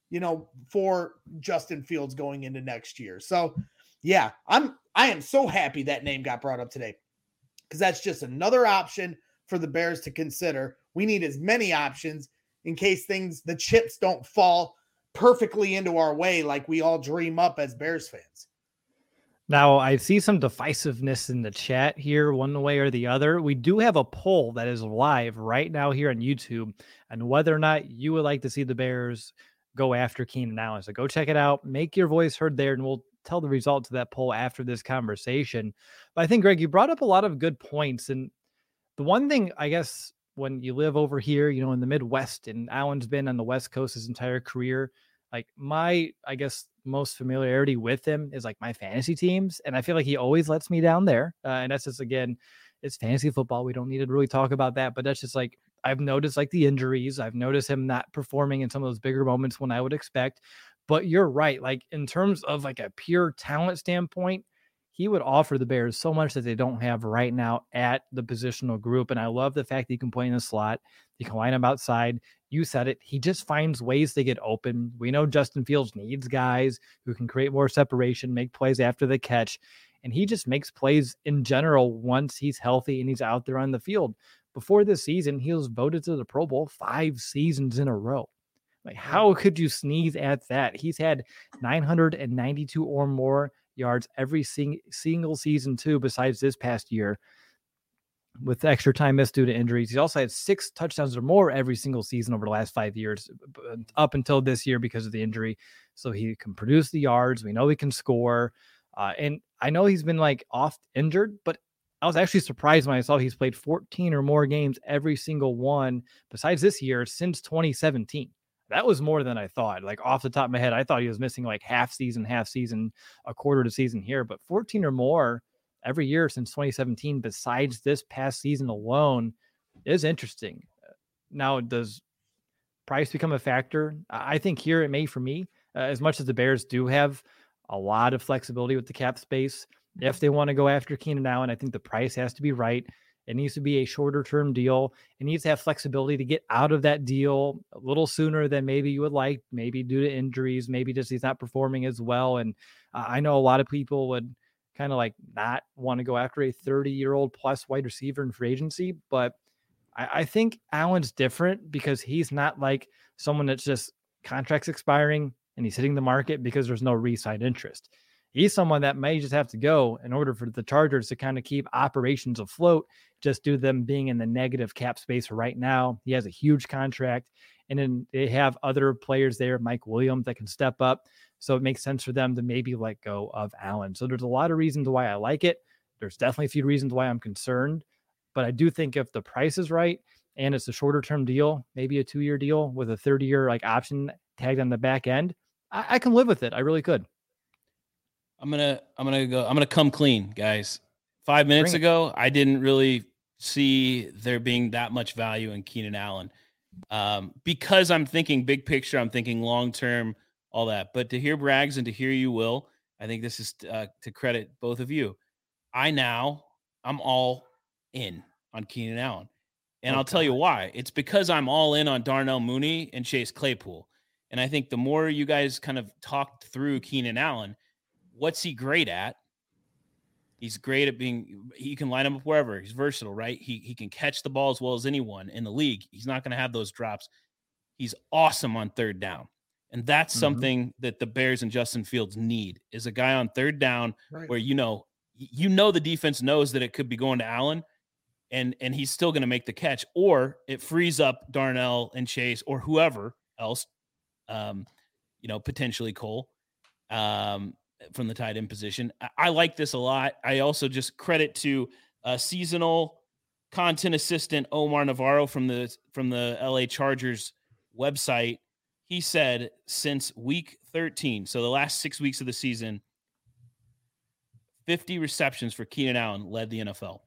for Justin Fields going into next year. So yeah, I am so happy that name got brought up today, because that's just another option for the Bears to consider. We need as many options in case the chips don't fall perfectly into our way like we all dream up as Bears fans. Now, I see some divisiveness in the chat here, one way or the other. We do have a poll that is live right now here on YouTube on whether or not you would like to see the Bears go after Keenan Allen. So go check it out. Make your voice heard there, and we'll tell the results of that poll after this conversation. But I think, Greg, you brought up a lot of good points. And the one thing, I guess, when you live over here, in the Midwest, and Allen's been on the West Coast his entire career, like my, I guess, most familiarity with him is like my fantasy teams. And I feel like he always lets me down there. And that's just, again, it's fantasy football. We don't need to really talk about that, but that's just like, I've noticed like the injuries. I've noticed him not performing in some of those bigger moments when I would expect. But you're right. Like in terms of like a pure talent standpoint, he would offer the Bears so much that they don't have right now at the positional group. And I love the fact that you can play in the slot. You can line him outside. You said it. He just finds ways to get open. We know Justin Fields needs guys who can create more separation, make plays after the catch. And he just makes plays in general once he's healthy and he's out there on the field. Before this season, he was voted to the Pro Bowl 5 seasons in a row. Like, how could you sneeze at that? He's had 992 or more yards every single season too, besides this past year with extra time missed due to injuries. He's also had 6 touchdowns or more every single season over the last 5 years up until this year because of the injury. So he can produce the yards. We know he can score. And I know he's been like off injured, but I was actually surprised when I saw he's played 14 or more games every single one besides this year since 2017. That was more than I thought. Like off the top of my head, I thought he was missing like half season, a quarter of the season here, but 14 or more every year since 2017, besides this past season alone, is interesting. Now, does price become a factor? I think here it may for me, as much as the Bears do have a lot of flexibility with the cap space. If they want to go after Keenan Allen, I think the price has to be right. It needs to be a shorter term deal. It needs to have flexibility to get out of that deal a little sooner than maybe you would like, maybe due to injuries, maybe just he's not performing as well. And I know a lot of people would kind of like not want to go after a 30-year-old plus wide receiver in free agency. But I think Allen's different because he's not like someone that's just contracts expiring and he's hitting the market because there's no re-sign interest. He's someone that may just have to go in order for the Chargers to kind of keep operations afloat, just due to them being in the negative cap space right now. He has a huge contract, and then they have other players there, Mike Williams, that can step up. So it makes sense for them to maybe let go of Allen. So there's a lot of reasons why I like it. There's definitely a few reasons why I'm concerned, but I do think if the price is right and it's a shorter term deal, maybe a 2-year deal with a 30-year like option tagged on the back end, I can live with it. I really could. I'm gonna come clean, guys. 5 minutes ago, I didn't really see there being that much value in Keenan Allen because I'm thinking big picture. I'm thinking long term, all that. But to hear Braggs and to hear you, Will, I think this is to credit both of you. I'm all in on Keenan Allen, and I'll tell you why. It's because I'm all in on Darnell Mooney and Chase Claypool, and I think the more you guys kind of talked through Keenan Allen. What's he great at? He's great at he can line him up wherever. He's versatile, right? He can catch the ball as well as anyone in the league. He's not going to have those drops. He's awesome on third down. And that's something that the Bears and Justin Fields need is a guy on third down where, the defense knows that it could be going to Allen and he's still going to make the catch, or it frees up Darnell and Chase or whoever else, potentially Cole, from the tight end position. I like this a lot. I also just credit to seasonal content assistant Omar Navarro from the LA Chargers website. He said since week 13, so the last 6 weeks of the season, 50 receptions for Keenan Allen led the NFL.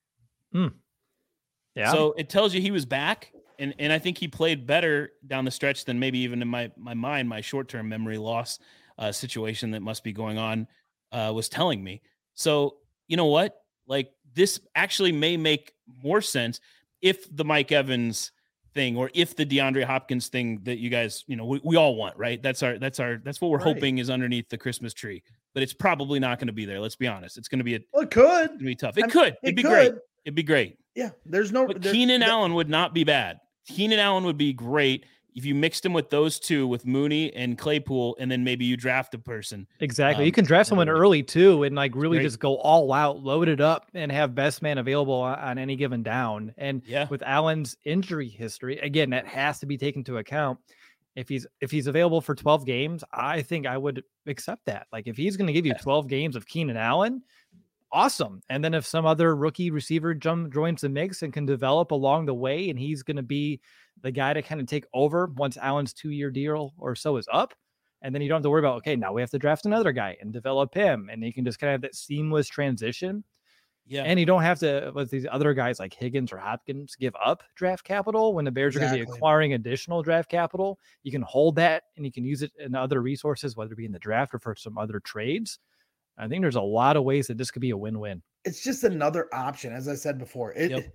Yeah. So it tells you he was back, and I think he played better down the stretch than maybe even in my mind, my short-term memory loss situation that must be going on was telling me. So you know what? Like this actually may make more sense if the Mike Evans thing, or if the DeAndre Hopkins thing that you guys, we all want, right? That's what we're hoping is underneath the Christmas tree, but it's probably not going to be there. Let's be honest. It's going to be it could. It's going to be tough. It'd be great. It'd be great. Yeah. Keenan Allen would not be bad. Keenan Allen would be great if you mixed him with those two, with Mooney and Claypool, and then maybe you draft a person. Exactly. You can draft someone early too, and like really just go all out, load it up, and have best man available on any given down. And with Allen's injury history, again, that has to be taken into account. If he's available for 12 games, I think I would accept that. Like if he's going to give you 12 games of Keenan Allen, awesome. And then if some other rookie receiver joins the mix and can develop along the way, and he's going to be the guy to kind of take over once Allen's 2-year deal or so is up. And then you don't have to worry about, okay, now we have to draft another guy and develop him. And you can just kind of have that seamless transition. Yeah. And you don't have to, with these other guys like Higgins or Hopkins, give up draft capital when the Bears are going to be acquiring additional draft capital. You can hold that and you can use it in other resources, whether it be in the draft or for some other trades. I think there's a lot of ways that this could be a win-win. It's just another option. As I said before,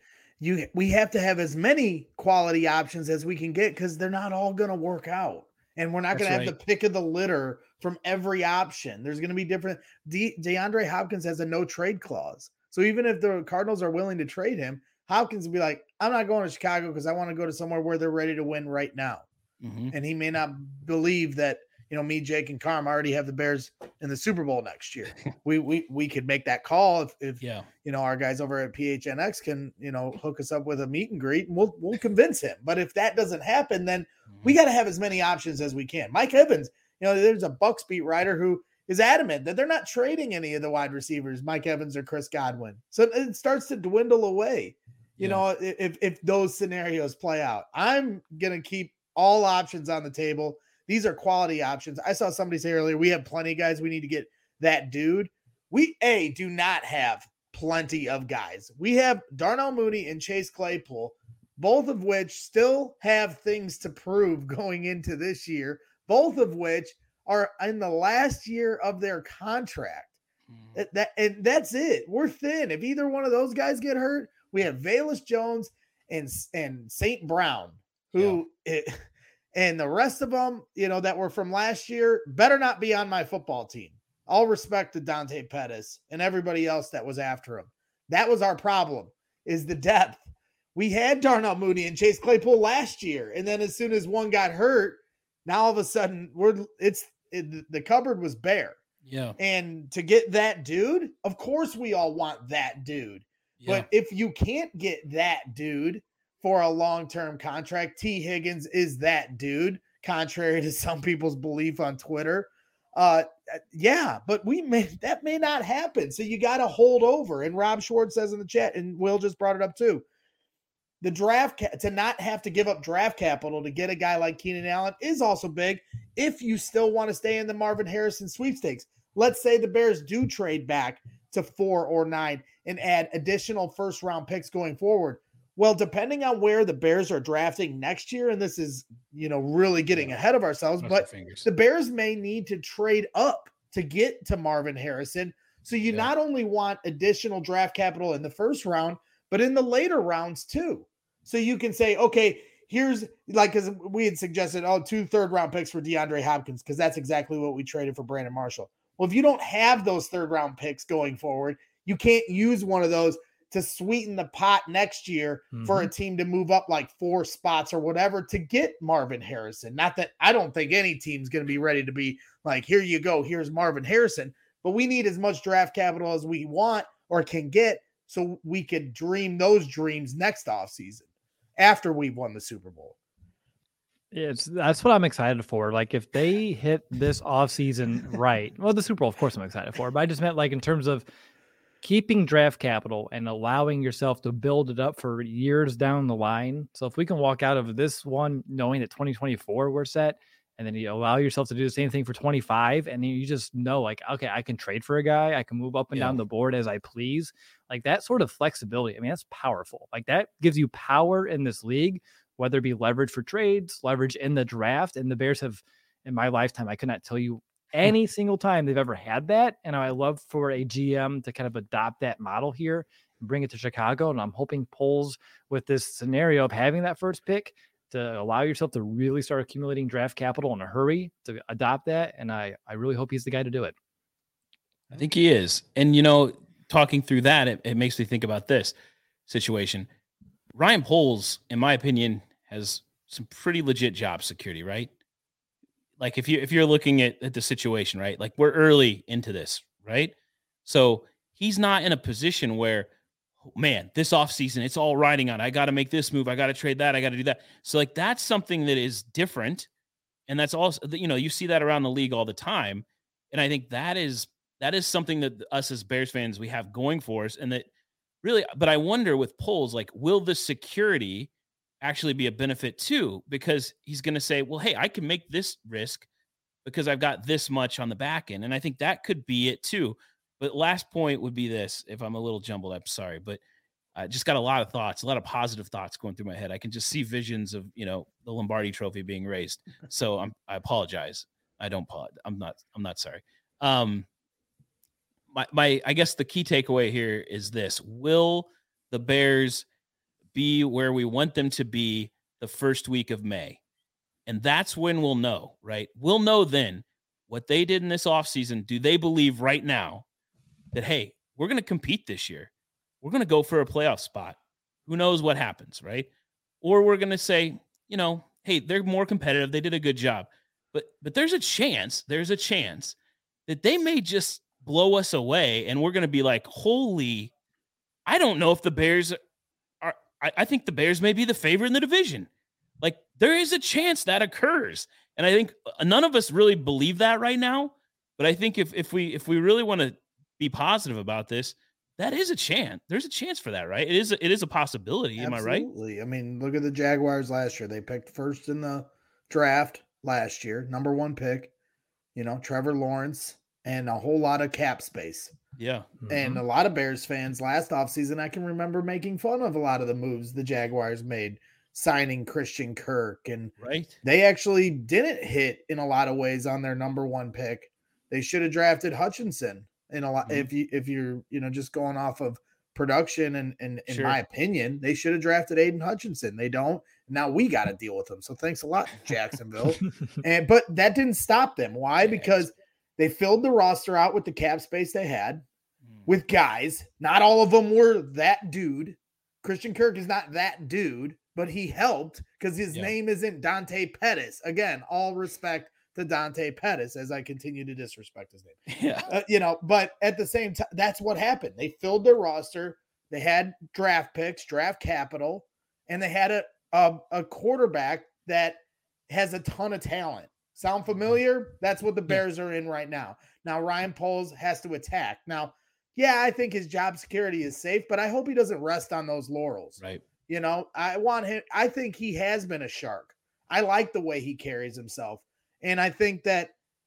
we have to have as many quality options as we can get, because they're not all going to work out. And we're not going to have the pick of the litter from every option. There's going to be different. DeAndre Hopkins has a no trade clause. So even if the Cardinals are willing to trade him, Hopkins will be like, I'm not going to Chicago because I want to go to somewhere where they're ready to win right now. Mm-hmm. And he may not believe that, me, Jake, and Carm already have the Bears in the Super Bowl next year. We could make that call if our guys over at PHNX can, hook us up with a meet and greet, and we'll convince him. But if that doesn't happen, then we got to have as many options as we can. Mike Evans, there's a Bucs beat writer who is adamant that they're not trading any of the wide receivers, Mike Evans or Chris Godwin. So it starts to dwindle away. If those scenarios play out, I'm going to keep all options on the table. These are quality options. I saw somebody say earlier, we have plenty of guys. We need to get that dude. We do not have plenty of guys. We have Darnell Mooney and Chase Claypool, both of which still have things to prove going into this year, both of which are in the last year of their contract. And that's it. We're thin. If either one of those guys get hurt, we have Velus Jones and St. Brown, who and the rest of them, that were from last year, better not be on my football team. All respect to Dante Pettis and everybody else that was after him. That was our problem, is the depth. We had Darnell Mooney and Chase Claypool last year, and then as soon as one got hurt, now all of a sudden the cupboard was bare. Yeah. And to get that dude, of course we all want that dude. Yeah. But if you can't get that dude for a long-term contract, T. Higgins is that dude, contrary to some people's belief on Twitter. But that may not happen. So you got to hold over. And Rob Schwartz says in the chat, and Will just brought it up too, the draft to not have to give up draft capital to get a guy like Keenan Allen is also big if you still want to stay in the Marvin Harrison sweepstakes. Let's say the Bears do trade back to 4 or 9 and add additional first-round picks going forward. Well, depending on where the Bears are drafting next year, and this is, really getting ahead of ourselves, but the Bears may need to trade up to get to Marvin Harrison. So you not only want additional draft capital in the first round, but in the later rounds too. So you can say, okay, here's because we had suggested, 2 third-round picks for DeAndre Hopkins, because that's exactly what we traded for Brandon Marshall. Well, if you don't have those third-round picks going forward, you can't use one of those to sweeten the pot next year for a team to move up like 4 spots or whatever to get Marvin Harrison. Not that I don't think any team's going to be ready to be like, here you go, here's Marvin Harrison. But we need as much draft capital as we want or can get so we could dream those dreams next offseason after we've won the Super Bowl. That's what I'm excited for. Like if they hit this offseason right, well, the Super Bowl, of course, I'm excited for, but I just meant like in terms of keeping draft capital and allowing yourself to build it up for years down the line. So if we can walk out of this one knowing that 2024 we're set, and then you allow yourself to do the same thing for 25, and you just know like, okay, I can trade for a guy, I can move up and down the board as I please. Like that sort of flexibility, I mean, that's powerful. Like that gives you power in this league, whether it be leverage for trades, leverage in the draft. And the Bears have, in my lifetime, I could not tell you any single time they've ever had that. And I love for a GM to kind of adopt that model here. and bring it to Chicago. And I'm hoping Poles, with this scenario of having that first pick, to allow yourself to really start accumulating draft capital in a hurry to adopt that. And I really hope he's the guy to do it. I think he is. And, talking through that, it makes me think about this situation. Ryan Poles, in my opinion, has some pretty legit job security, right? Like if you're looking at the situation, right? Like we're early into this, right? So he's not in a position where, man, this offseason, it's all riding on, I got to make this move. I got to trade that. I got to do that. So like, that's something that is different. And that's also, you see that around the league all the time. And I think that is something that us as Bears fans, we have going for us. And that really, but I wonder with Poles, like, will the security actually be a benefit too? Because he's going to say, well, hey, I can make this risk because I've got this much on the back end. And I think that could be it too. But last point would be this, if I'm a little jumbled, I'm sorry, but I just got a lot of thoughts, a lot of positive thoughts going through my head. I can just see visions of, the Lombardi trophy being raised. So I apologize. I'm not sorry. I guess the key takeaway here is this: will the Bears be where we want them to be the first week of May? And that's when we'll know, right? We'll know then what they did in this offseason. Do they believe right now that, hey, we're going to compete this year? We're going to go for a playoff spot. Who knows what happens, right? Or we're going to say, hey, they're more competitive. They did a good job. But there's a chance that they may just blow us away, and we're going to be like, holy, I don't know if the Bears are, I think the Bears may be the favorite in the division. Like, there is a chance that occurs. And I think none of us really believe that right now. But I think if we really want to be positive about this, that is a chance. There's a chance for that, right? It is a possibility. Absolutely. Am I right? Absolutely. I mean, look at the Jaguars last year. They picked first in the draft last year, number 1 pick, Trevor Lawrence, and a whole lot of cap space. Yeah. And a lot of Bears fans last offseason, I can remember making fun of a lot of the moves the Jaguars made, signing Christian Kirk. And they actually didn't hit in a lot of ways on their number 1 pick. They should have drafted Hutchinson in a lot. If you're, just going off of production and in my opinion, they should have drafted Aiden Hutchinson. They don't. Now we got to deal with them. So thanks a lot, Jacksonville. But that didn't stop them. Why? Because they filled the roster out with the cap space they had with guys. Not all of them were that dude. Christian Kirk is not that dude, but he helped because his name isn't Dante Pettis. Again, all respect to Dante Pettis as I continue to disrespect his name. Yeah. But at the same time, that's what happened. They filled their roster. They had draft picks, draft capital, and they had a quarterback that has a ton of talent. Sound familiar? That's what the Bears are in right now. Now, Ryan Poles has to attack. Now, I think his job security is safe, but I hope he doesn't rest on those laurels. Right. I want him. I think he has been a shark. I like the way he carries himself. And I think that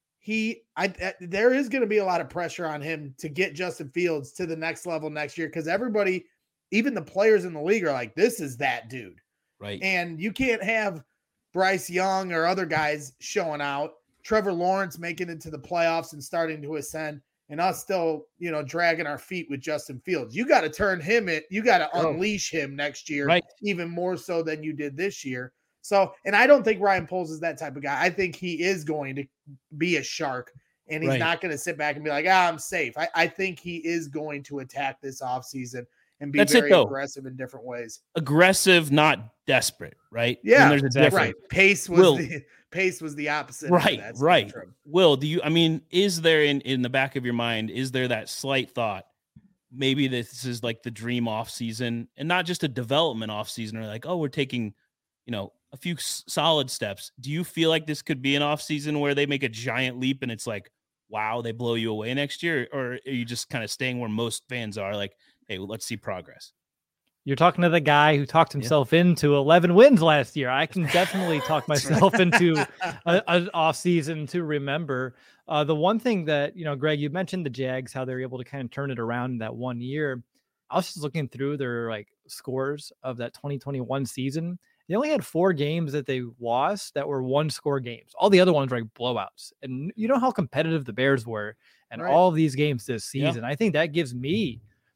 there is going to be a lot of pressure on him to get Justin Fields to the next level next year. Cause everybody, even the players in the league are like, this is that dude. Right. And you can't have Bryce Young or other guys showing out, Trevor Lawrence making it to the playoffs and starting to ascend, and us still, dragging our feet with Justin Fields. You got to turn him in. You got to unleash him next year, even more so than you did this year. So, and I don't think Ryan Poles is that type of guy. I think he is going to be a shark, and he's not going to sit back and be like, I'm safe. I think he is going to attack this offseason and be very aggressive in different ways. Aggressive, not desperate, right? Yeah, right. Pace was the opposite. Right. Will, is there in the back of your mind, is there that slight thought, maybe this is like the dream off season and not just a development off season, or like, oh, we're taking, a few solid steps. Do you feel like this could be an off season where they make a giant leap and it's like, wow, they blow you away next year? Or are you just kind of staying where most fans are, like, hey, well, let's see progress? You're talking to the guy who talked himself into 11 wins last year. I can definitely talk myself into an off season to remember. The one thing that, Greg, you mentioned the Jags, how they're able to kind of turn it around in that 1 year. I was just looking through their scores of that 2021 season. They only had 4 games that they lost that were 1-score games. All the other ones were blowouts. And you know how competitive the Bears were in all of these games this season. I think that gives me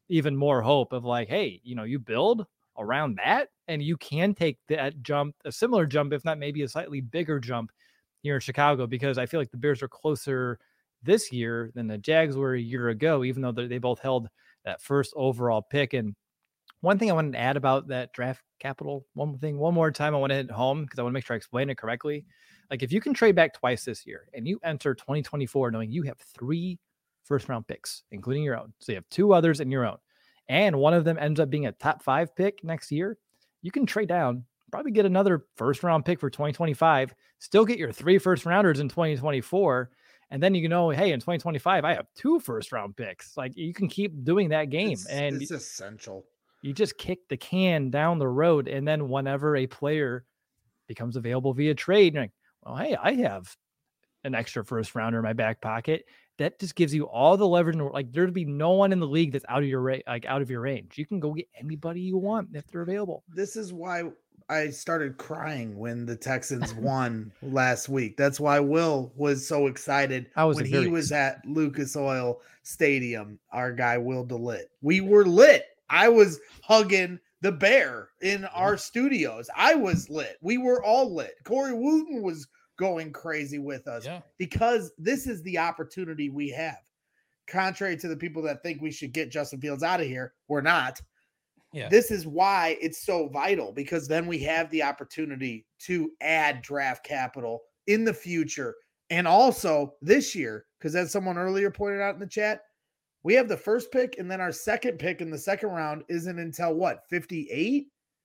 even more hope of like, hey, you build around that and you can take that jump, a similar jump, if not maybe a slightly bigger jump here in Chicago, because I feel like the Bears are closer this year than the Jags were a year ago, even though they both held that first overall pick. And one thing I wanted to add about that draft capital, one more time, I want to hit home because I want to make sure I explain it correctly. Like if you can trade back twice this year and you enter 2024 knowing you have 3 first-round picks, including your own, so you have 2 others and your own, and one of them ends up being a top 5 pick next year, you can trade down, probably get another first-round pick for 2025, still get your 3 first-rounders in 2024, and then hey, in 2025, I have 2 first-round picks. Like you can keep doing that game. It's essential. You just kick the can down the road, and then whenever a player becomes available via trade, you're like, well, hey, I have an extra first rounder in my back pocket. That just gives you all the leverage. Like there'd be no one in the league that's out of your range. You can go get anybody you want if they're available. This is why I started crying when the Texans won last week. That's why Will was so excited when he was at Lucas Oil Stadium. Our guy Will DeLitt. We were lit. I was hugging the bear in our studios. I was lit. We were all lit. Corey Wooten was going crazy with us because this is the opportunity we have. Contrary to the people that think we should get Justin Fields out of here, we're not. Yeah. This is why it's so vital, because then we have the opportunity to add draft capital in the future and also this year, because as someone earlier pointed out in the chat, we have the first pick, and then our second pick in the second round isn't until what, 58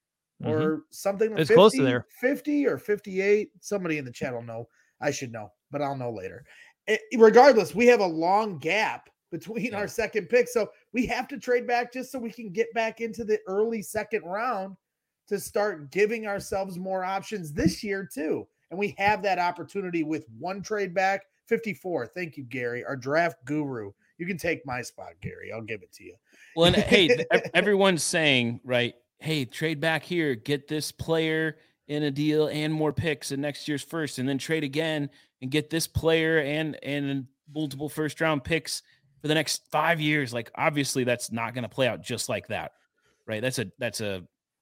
or something? It's 50, close to there. 50 or 58. Somebody in the chat will know. I should know, but I'll know later. Regardless, we have a long gap between our second pick. So we have to trade back just so we can get back into the early second round to start giving ourselves more options this year too. And we have that opportunity with one trade back. 54. Thank you, Gary, our draft guru. You can take my spot, Gary. I'll give it to you. Well, and hey, everyone's saying, right, hey, trade back here, get this player in a deal and more picks in next year's first, and then trade again and get this player and multiple first-round picks for the next 5 years. Like, obviously, that's not going to play out just like that, right? That's a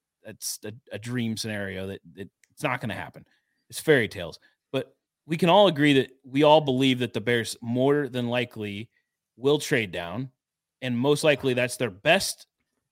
dream scenario that it's not going to happen. It's fairy tales. But we can all agree that we all believe that the Bears more than likely will trade down, and most likely that's their best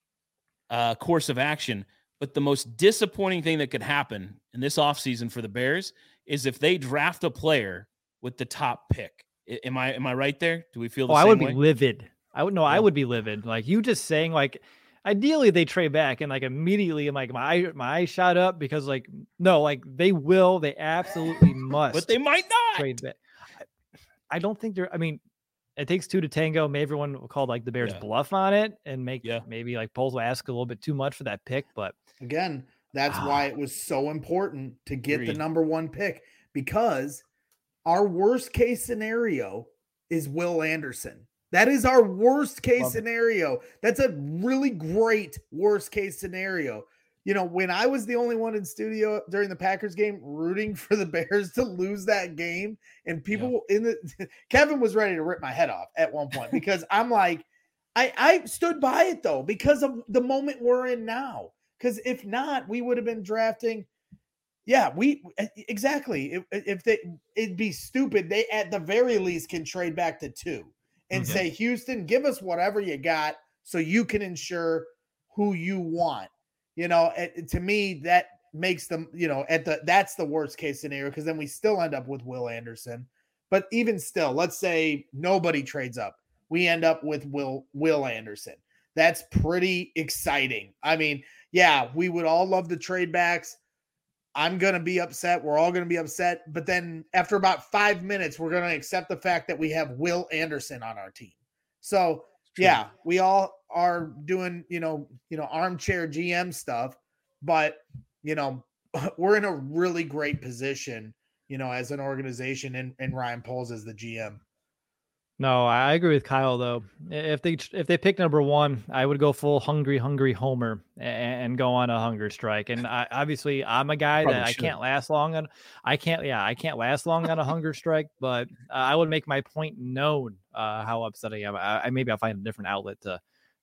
course of action. But the most disappointing thing that could happen in this offseason for the Bears is if they draft a player with the top pick. Am I right there? Do we feel the same way? I would be livid. I would be livid. Like you just saying, like, ideally they trade back, and like immediately I'm like my eyes shot up because like, no, like they absolutely must. But they might not trade back. I don't think it takes 2 to tango. Maybe everyone will call like the Bears bluff on it and maybe like polls will ask a little bit too much for that pick. But again, that's why it was so important to get the number 1 pick, because our worst case scenario is Will Anderson. That is our worst case scenario. That's a really great worst case scenario. You know, when I was the only one in studio during the Packers game rooting for the Bears to lose that game, and people Kevin was ready to rip my head off at one point because I'm like, I stood by it though, because of the moment we're in now. Because if not, we would have been drafting. Yeah, exactly. It'd be stupid. They at the very least can trade back to 2 and say, Houston, give us whatever you got so you can ensure who you want. You know, to me, that makes them, that's the worst case scenario, because then we still end up with Will Anderson. But even still, let's say nobody trades up. We end up with Will Anderson. That's pretty exciting. I mean, yeah, we would all love the trade backs. I'm going to be upset. We're all going to be upset. But then after about 5 minutes, we're going to accept the fact that we have Will Anderson on our team. So, yeah, we all are doing, armchair GM stuff, but, we're in a really great position, as an organization, and Ryan Poles as the GM. No, I agree with Kyle though. If they pick number 1, I would go full hungry Homer and go on a hunger strike. And obviously I'm a guy that I can't last long on. I can't last long on a hunger strike, but I would make my point known how upset I am. Maybe I'll find a different outlet to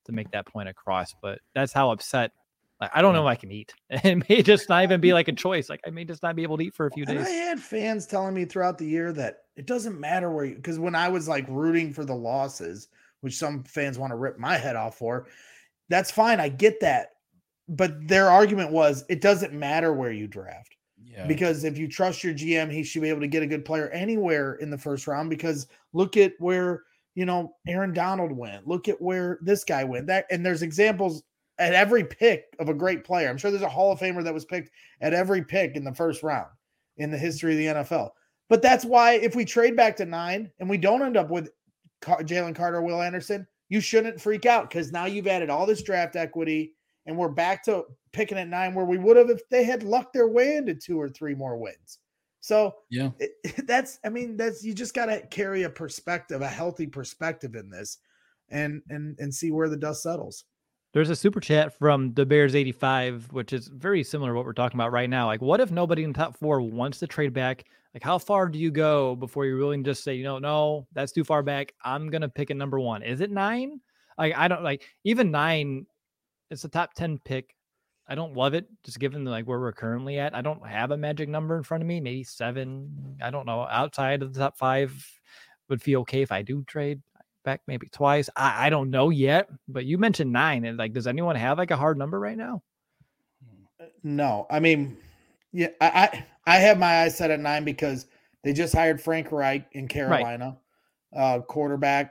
to make that point across. But that's how upset. I don't know if I can eat. It may just not even be like a choice. Like I may just not be able to eat for a few days. I had fans telling me throughout the year that it doesn't matter where you, because when I was like rooting for the losses, which some fans want to rip my head off for, that's fine. I get that. But their argument was it doesn't matter where you draft. Yeah. Because if you trust your GM, he should be able to get a good player anywhere in the first round. Because look at where, Aaron Donald went. Look at where this guy went. And there's examples at every pick of a great player. I'm sure there's a Hall of Famer that was picked at every pick in the first round in the history of the NFL. But that's why if we trade back to 9 and we don't end up with Jalen Carter or Will Anderson, you shouldn't freak out because now you've added all this draft equity and we're back to picking at 9 where we would have if they had lucked their way into 2 or 3 more wins. So yeah, that's you just got to carry a perspective, a healthy perspective in this and see where the dust settles. There's a super chat from the Bears 85, which is very similar to what we're talking about right now. Like, what if nobody in the top 4 wants to trade back? Like, how far do you go before you really just say, no, that's too far back. I'm going to pick a number 1. Is it 9? Like, I don't like even 9. It's a top 10 pick. I don't love it just given where we're currently at. I don't have a magic number in front of me, maybe 7. I don't know. Outside of the top 5 would feel okay if I do trade back maybe twice. I don't know yet, but you mentioned 9 and does anyone have a hard number right now? No, yeah, I have my eyes set at 9 because they just hired Frank Reich in Carolina, right. Quarterback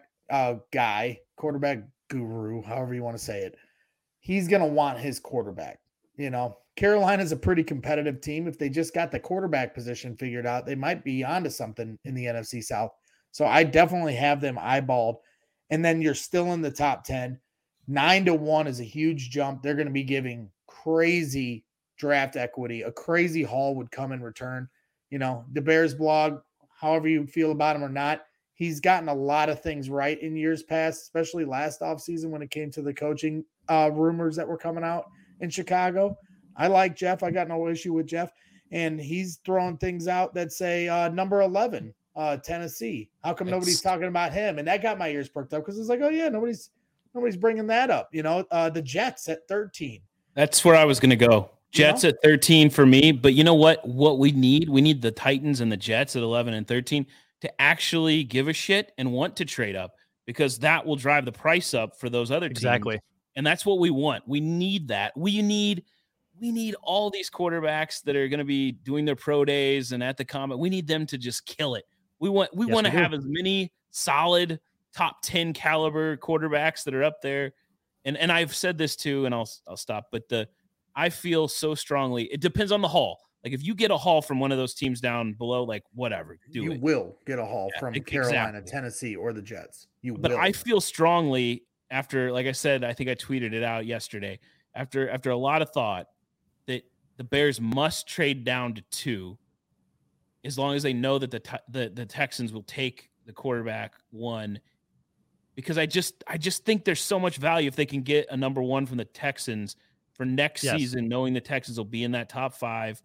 guru, however you want to say it. He's going to want his quarterback. Carolina's a pretty competitive team. If they just got the quarterback position figured out, they might be onto something in the NFC South. So I definitely have them eyeballed. And then you're still in the top 10. 9-1 is a huge jump. They're going to be giving crazy draft equity. A crazy haul would come in return. The Bears blog, however you feel about him or not, he's gotten a lot of things right in years past, especially last offseason when it came to the coaching rumors that were coming out in Chicago. I like Jeff. I got no issue with Jeff. And he's throwing things out that say number 11. Tennessee. How come nobody's talking about him? And that got my ears perked up because it's like, oh yeah, nobody's bringing that up. The Jets at 13. That's where I was going to go. Jets at 13 for me. But you know what? What we need the Titans and the Jets at 11 and 13 to actually give a shit and want to trade up because that will drive the price up for those other teams. Exactly. And that's what we want. We need that. We need all these quarterbacks that are going to be doing their pro days and at the Combine. We need them to just kill it. We want to have as many solid top 10 caliber quarterbacks that are up there. And I've said this too, and I'll stop. But I feel so strongly. It depends on the haul. Like if you get a haul from one of those teams down below, whatever, you will get a haul from Carolina, Tennessee, or the Jets. But I feel strongly after, like I said, I think I tweeted it out yesterday. After a lot of thought, that the Bears must trade down to 2. As long as they know that the Texans will take the quarterback 1, because I just think there's so much value if they can get a number 1 from the Texans for next season, knowing the Texans will be in that top 5.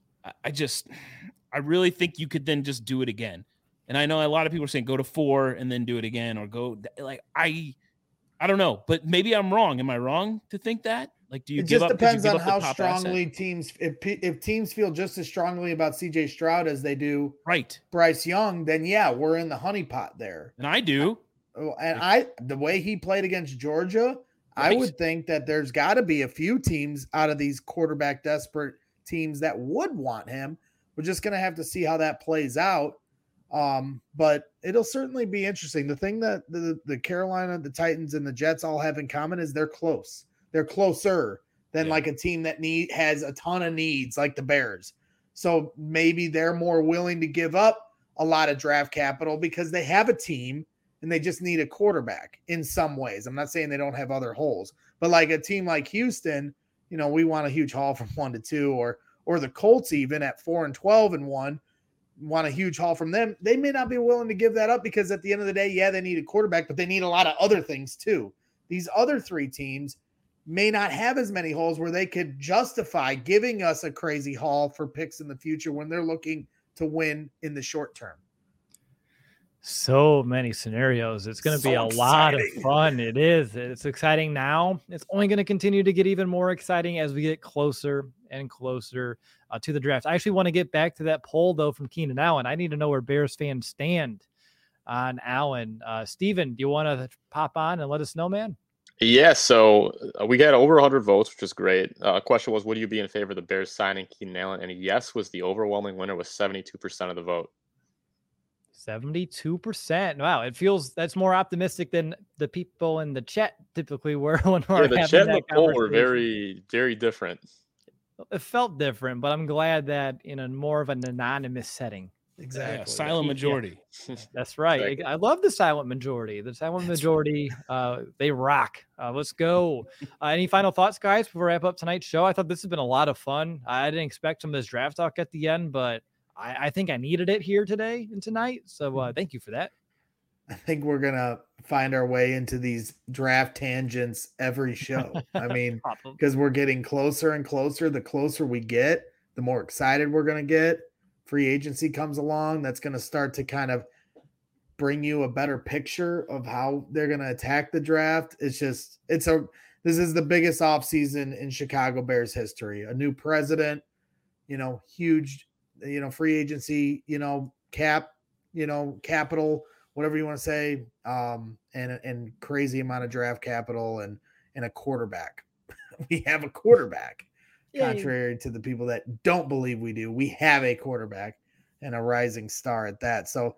I really think you could then just do it again. And I know a lot of people are saying go to 4 and then do it again, or go I don't know, but maybe I'm wrong. Am I wrong to think that? Do you give up? It just depends on how strongly teams. If teams feel just as strongly about C.J. Stroud as they do Bryce Young, then yeah, we're in the honeypot there. And I do. And the way he played against Georgia, I would think that there's got to be a few teams out of these quarterback desperate teams that would want him. We're just going to have to see how that plays out. But it'll certainly be interesting. The thing that the Carolina, the Titans, and the Jets all have in common is they're close. They're closer than a team that has a ton of needs like the Bears. So maybe they're more willing to give up a lot of draft capital because they have a team and they just need a quarterback in some ways. I'm not saying they don't have other holes, but like a team like Houston, we want a huge haul from 1 to 2, or the Colts even at 4 and 12 and 1 want a huge haul from them. They may not be willing to give that up because at the end of the day, they need a quarterback, but they need a lot of other things too. These other 3 teams may not have as many holes where they could justify giving us a crazy haul for picks in the future when they're looking to win in the short term. So many scenarios. It's going to be a lot of fun. It is. It's exciting now. It's only going to continue to get even more exciting as we get closer and closer to the draft. I actually want to get back to that poll, though, from Keenan Allen. I need to know where Bears fans stand on Allen. Steven, do you want to pop on and let us know, man? Yeah, so we got over 100 votes, which is great. Question was, would you be in favor of the Bears signing Keenan Allen? And yes was the overwhelming winner with 72% of the vote. 72%. Wow, it feels that's more optimistic than the people in the chat typically were when we're having the chat and the poll were very, very different. It felt different, but I'm glad that in a more of an anonymous setting. Exactly. Yeah, silent majority. Yeah, that's right. Exactly. I love the silent majority. The silent majority, they rock. Let's go. Any final thoughts, guys, before we wrap up tonight's show? I thought this has been a lot of fun. I didn't expect some of this draft talk at the end, but I think I needed it here today and tonight. So thank you for that. I think we're going to find our way into these draft tangents every show. I mean, because we're getting closer and closer. The closer we get, the more excited we're going to get. Free agency comes along. That's going to start to kind of bring you a better picture of how they're going to attack the draft. This is the biggest offseason in Chicago Bears history. A new president, huge, free agency, cap, capital, whatever you want to say, and crazy amount of draft capital and a quarterback. We have a quarterback. Contrary to the people that don't believe we do, we have a quarterback and a rising star at that. So,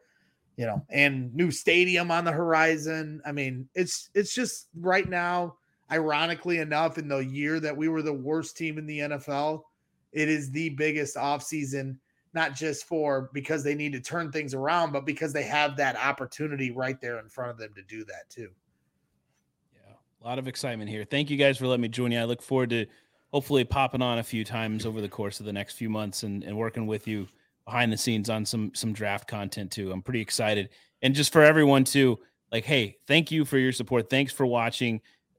and new stadium on the horizon. I mean, it's just right now, ironically enough, in the year that we were the worst team in the NFL, it is the biggest offseason, not just because they need to turn things around, but because they have that opportunity right there in front of them to do that too. Yeah, a lot of excitement here. Thank you guys for letting me join you. I look forward to hopefully popping on a few times over the course of the next few months and working with you behind the scenes on some draft content too. I'm pretty excited. And just for everyone too, hey, thank you for your support. Thanks for watching.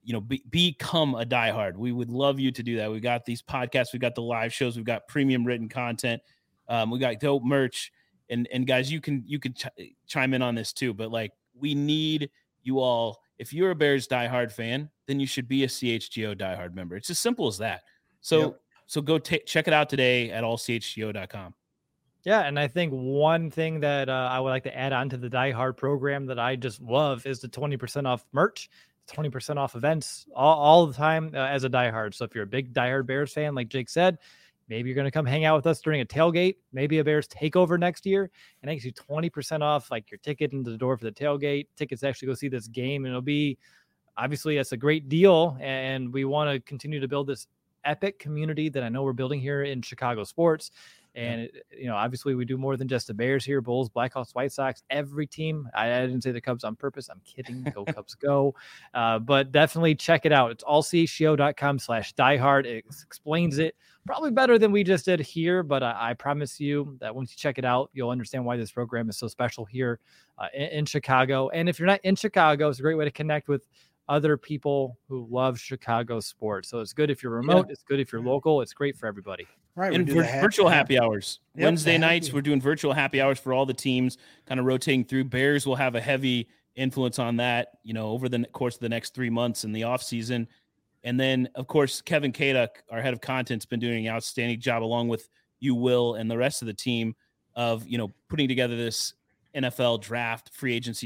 Become a diehard. We would love you to do that. We got these podcasts, we got the live shows, we've got premium written content. We got dope merch, and guys, you can chime in on this too. But we need you all. If you're a Bears diehard fan, then you should be a CHGO diehard member. It's as simple as that. So go check it out today at allchgo.com. Yeah, and I think one thing that I would like to add on to the diehard program that I just love is the 20% off merch, 20% off events all the time as a diehard. So if you're a big diehard Bears fan, like Jake said, maybe you're going to come hang out with us during a tailgate, maybe a Bears takeover next year, and that gives you 20% off your ticket into the door for the tailgate, tickets to actually go see this game. And it'll be, obviously, that's a great deal. And we want to continue to build this epic community that I know we're building here in Chicago sports. And, obviously we do more than just the Bears here, Bulls, Blackhawks, White Sox, every team. I didn't say the Cubs on purpose. I'm kidding. Go Cubs, go. But definitely check it out. It's allchgo.com/diehard. It explains it probably better than we just did here. But I promise you that once you check it out, you'll understand why this program is so special here in Chicago. And if you're not in Chicago, it's a great way to connect with other people who love Chicago sports. So it's good if you're remote. Yeah. It's good if you're local. It's great for everybody. Right. And virtual happy hours. Yep, Wednesday nights, we're doing virtual happy hours for all the teams, kind of rotating through. Bears will have a heavy influence on that, over the course of the next 3 months in the off season. And then, of course, Kevin Kaduk, our head of content, has been doing an outstanding job, along with you, Will, and the rest of the team, of putting together this NFL draft free agency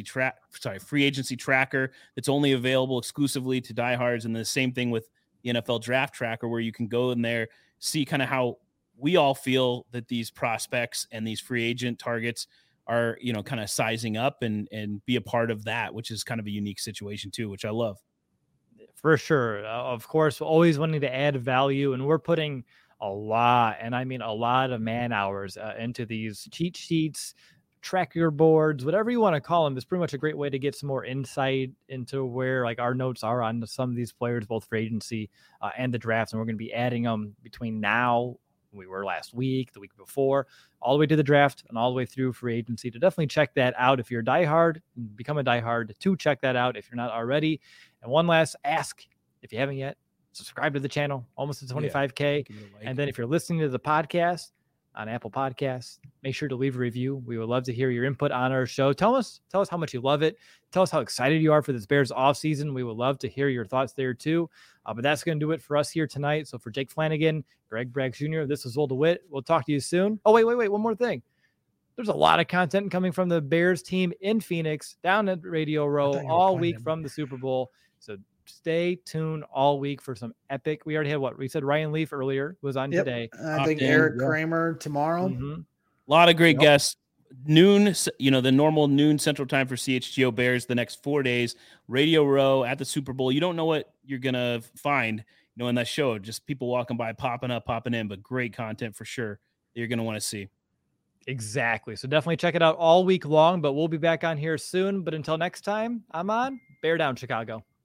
tracker that's only available exclusively to diehards. And the same thing with the NFL draft tracker, where you can go in there, see kind of how we all feel that these prospects and these free agent targets are, kind of sizing up and be a part of that, which is kind of a unique situation too, which I love. For sure. Of course, always wanting to add value, and we're putting a lot, and I mean a lot of man hours into these cheat sheets, tracker boards, whatever you want to call them. It's pretty much a great way to get some more insight into where our notes are on some of these players, both for agency and the draft. And we're going to be adding them between now, we were last week, the week before, all the way to the draft and all the way through free agency. To definitely check that out. If you're a diehard, become a diehard to check that out if you're not already. And one last ask, if you haven't yet, subscribe to the channel, almost to 25K. And then if you're listening to the podcast on Apple Podcasts. Make sure to leave a review. We would love to hear your input on our show. Tell us how much you love it. Tell us how excited you are for this Bears offseason. We would love to hear your thoughts there too. But that's going to do it for us here tonight. So for Jake Flanagan, Greg Braggs Jr., this is Will DeWitt. We'll talk to you soon. Oh, wait. One more thing. There's a lot of content coming from the Bears team in Phoenix, down at Radio Row all week from the Super Bowl. So stay tuned all week for some epic. We already had we said Ryan Leaf earlier was on today. I think Eric Kramer tomorrow. Mm-hmm. A lot of great guests. Noon, the normal noon Central Time for CHGO Bears the next 4 days. Radio Row at the Super Bowl. You don't know what you're going to find, in that show. Just people walking by, popping up, popping in, but great content for sure that you're going to want to see. Exactly. So definitely check it out all week long, but we'll be back on here soon. But until next time, I'm on Bear Down Chicago.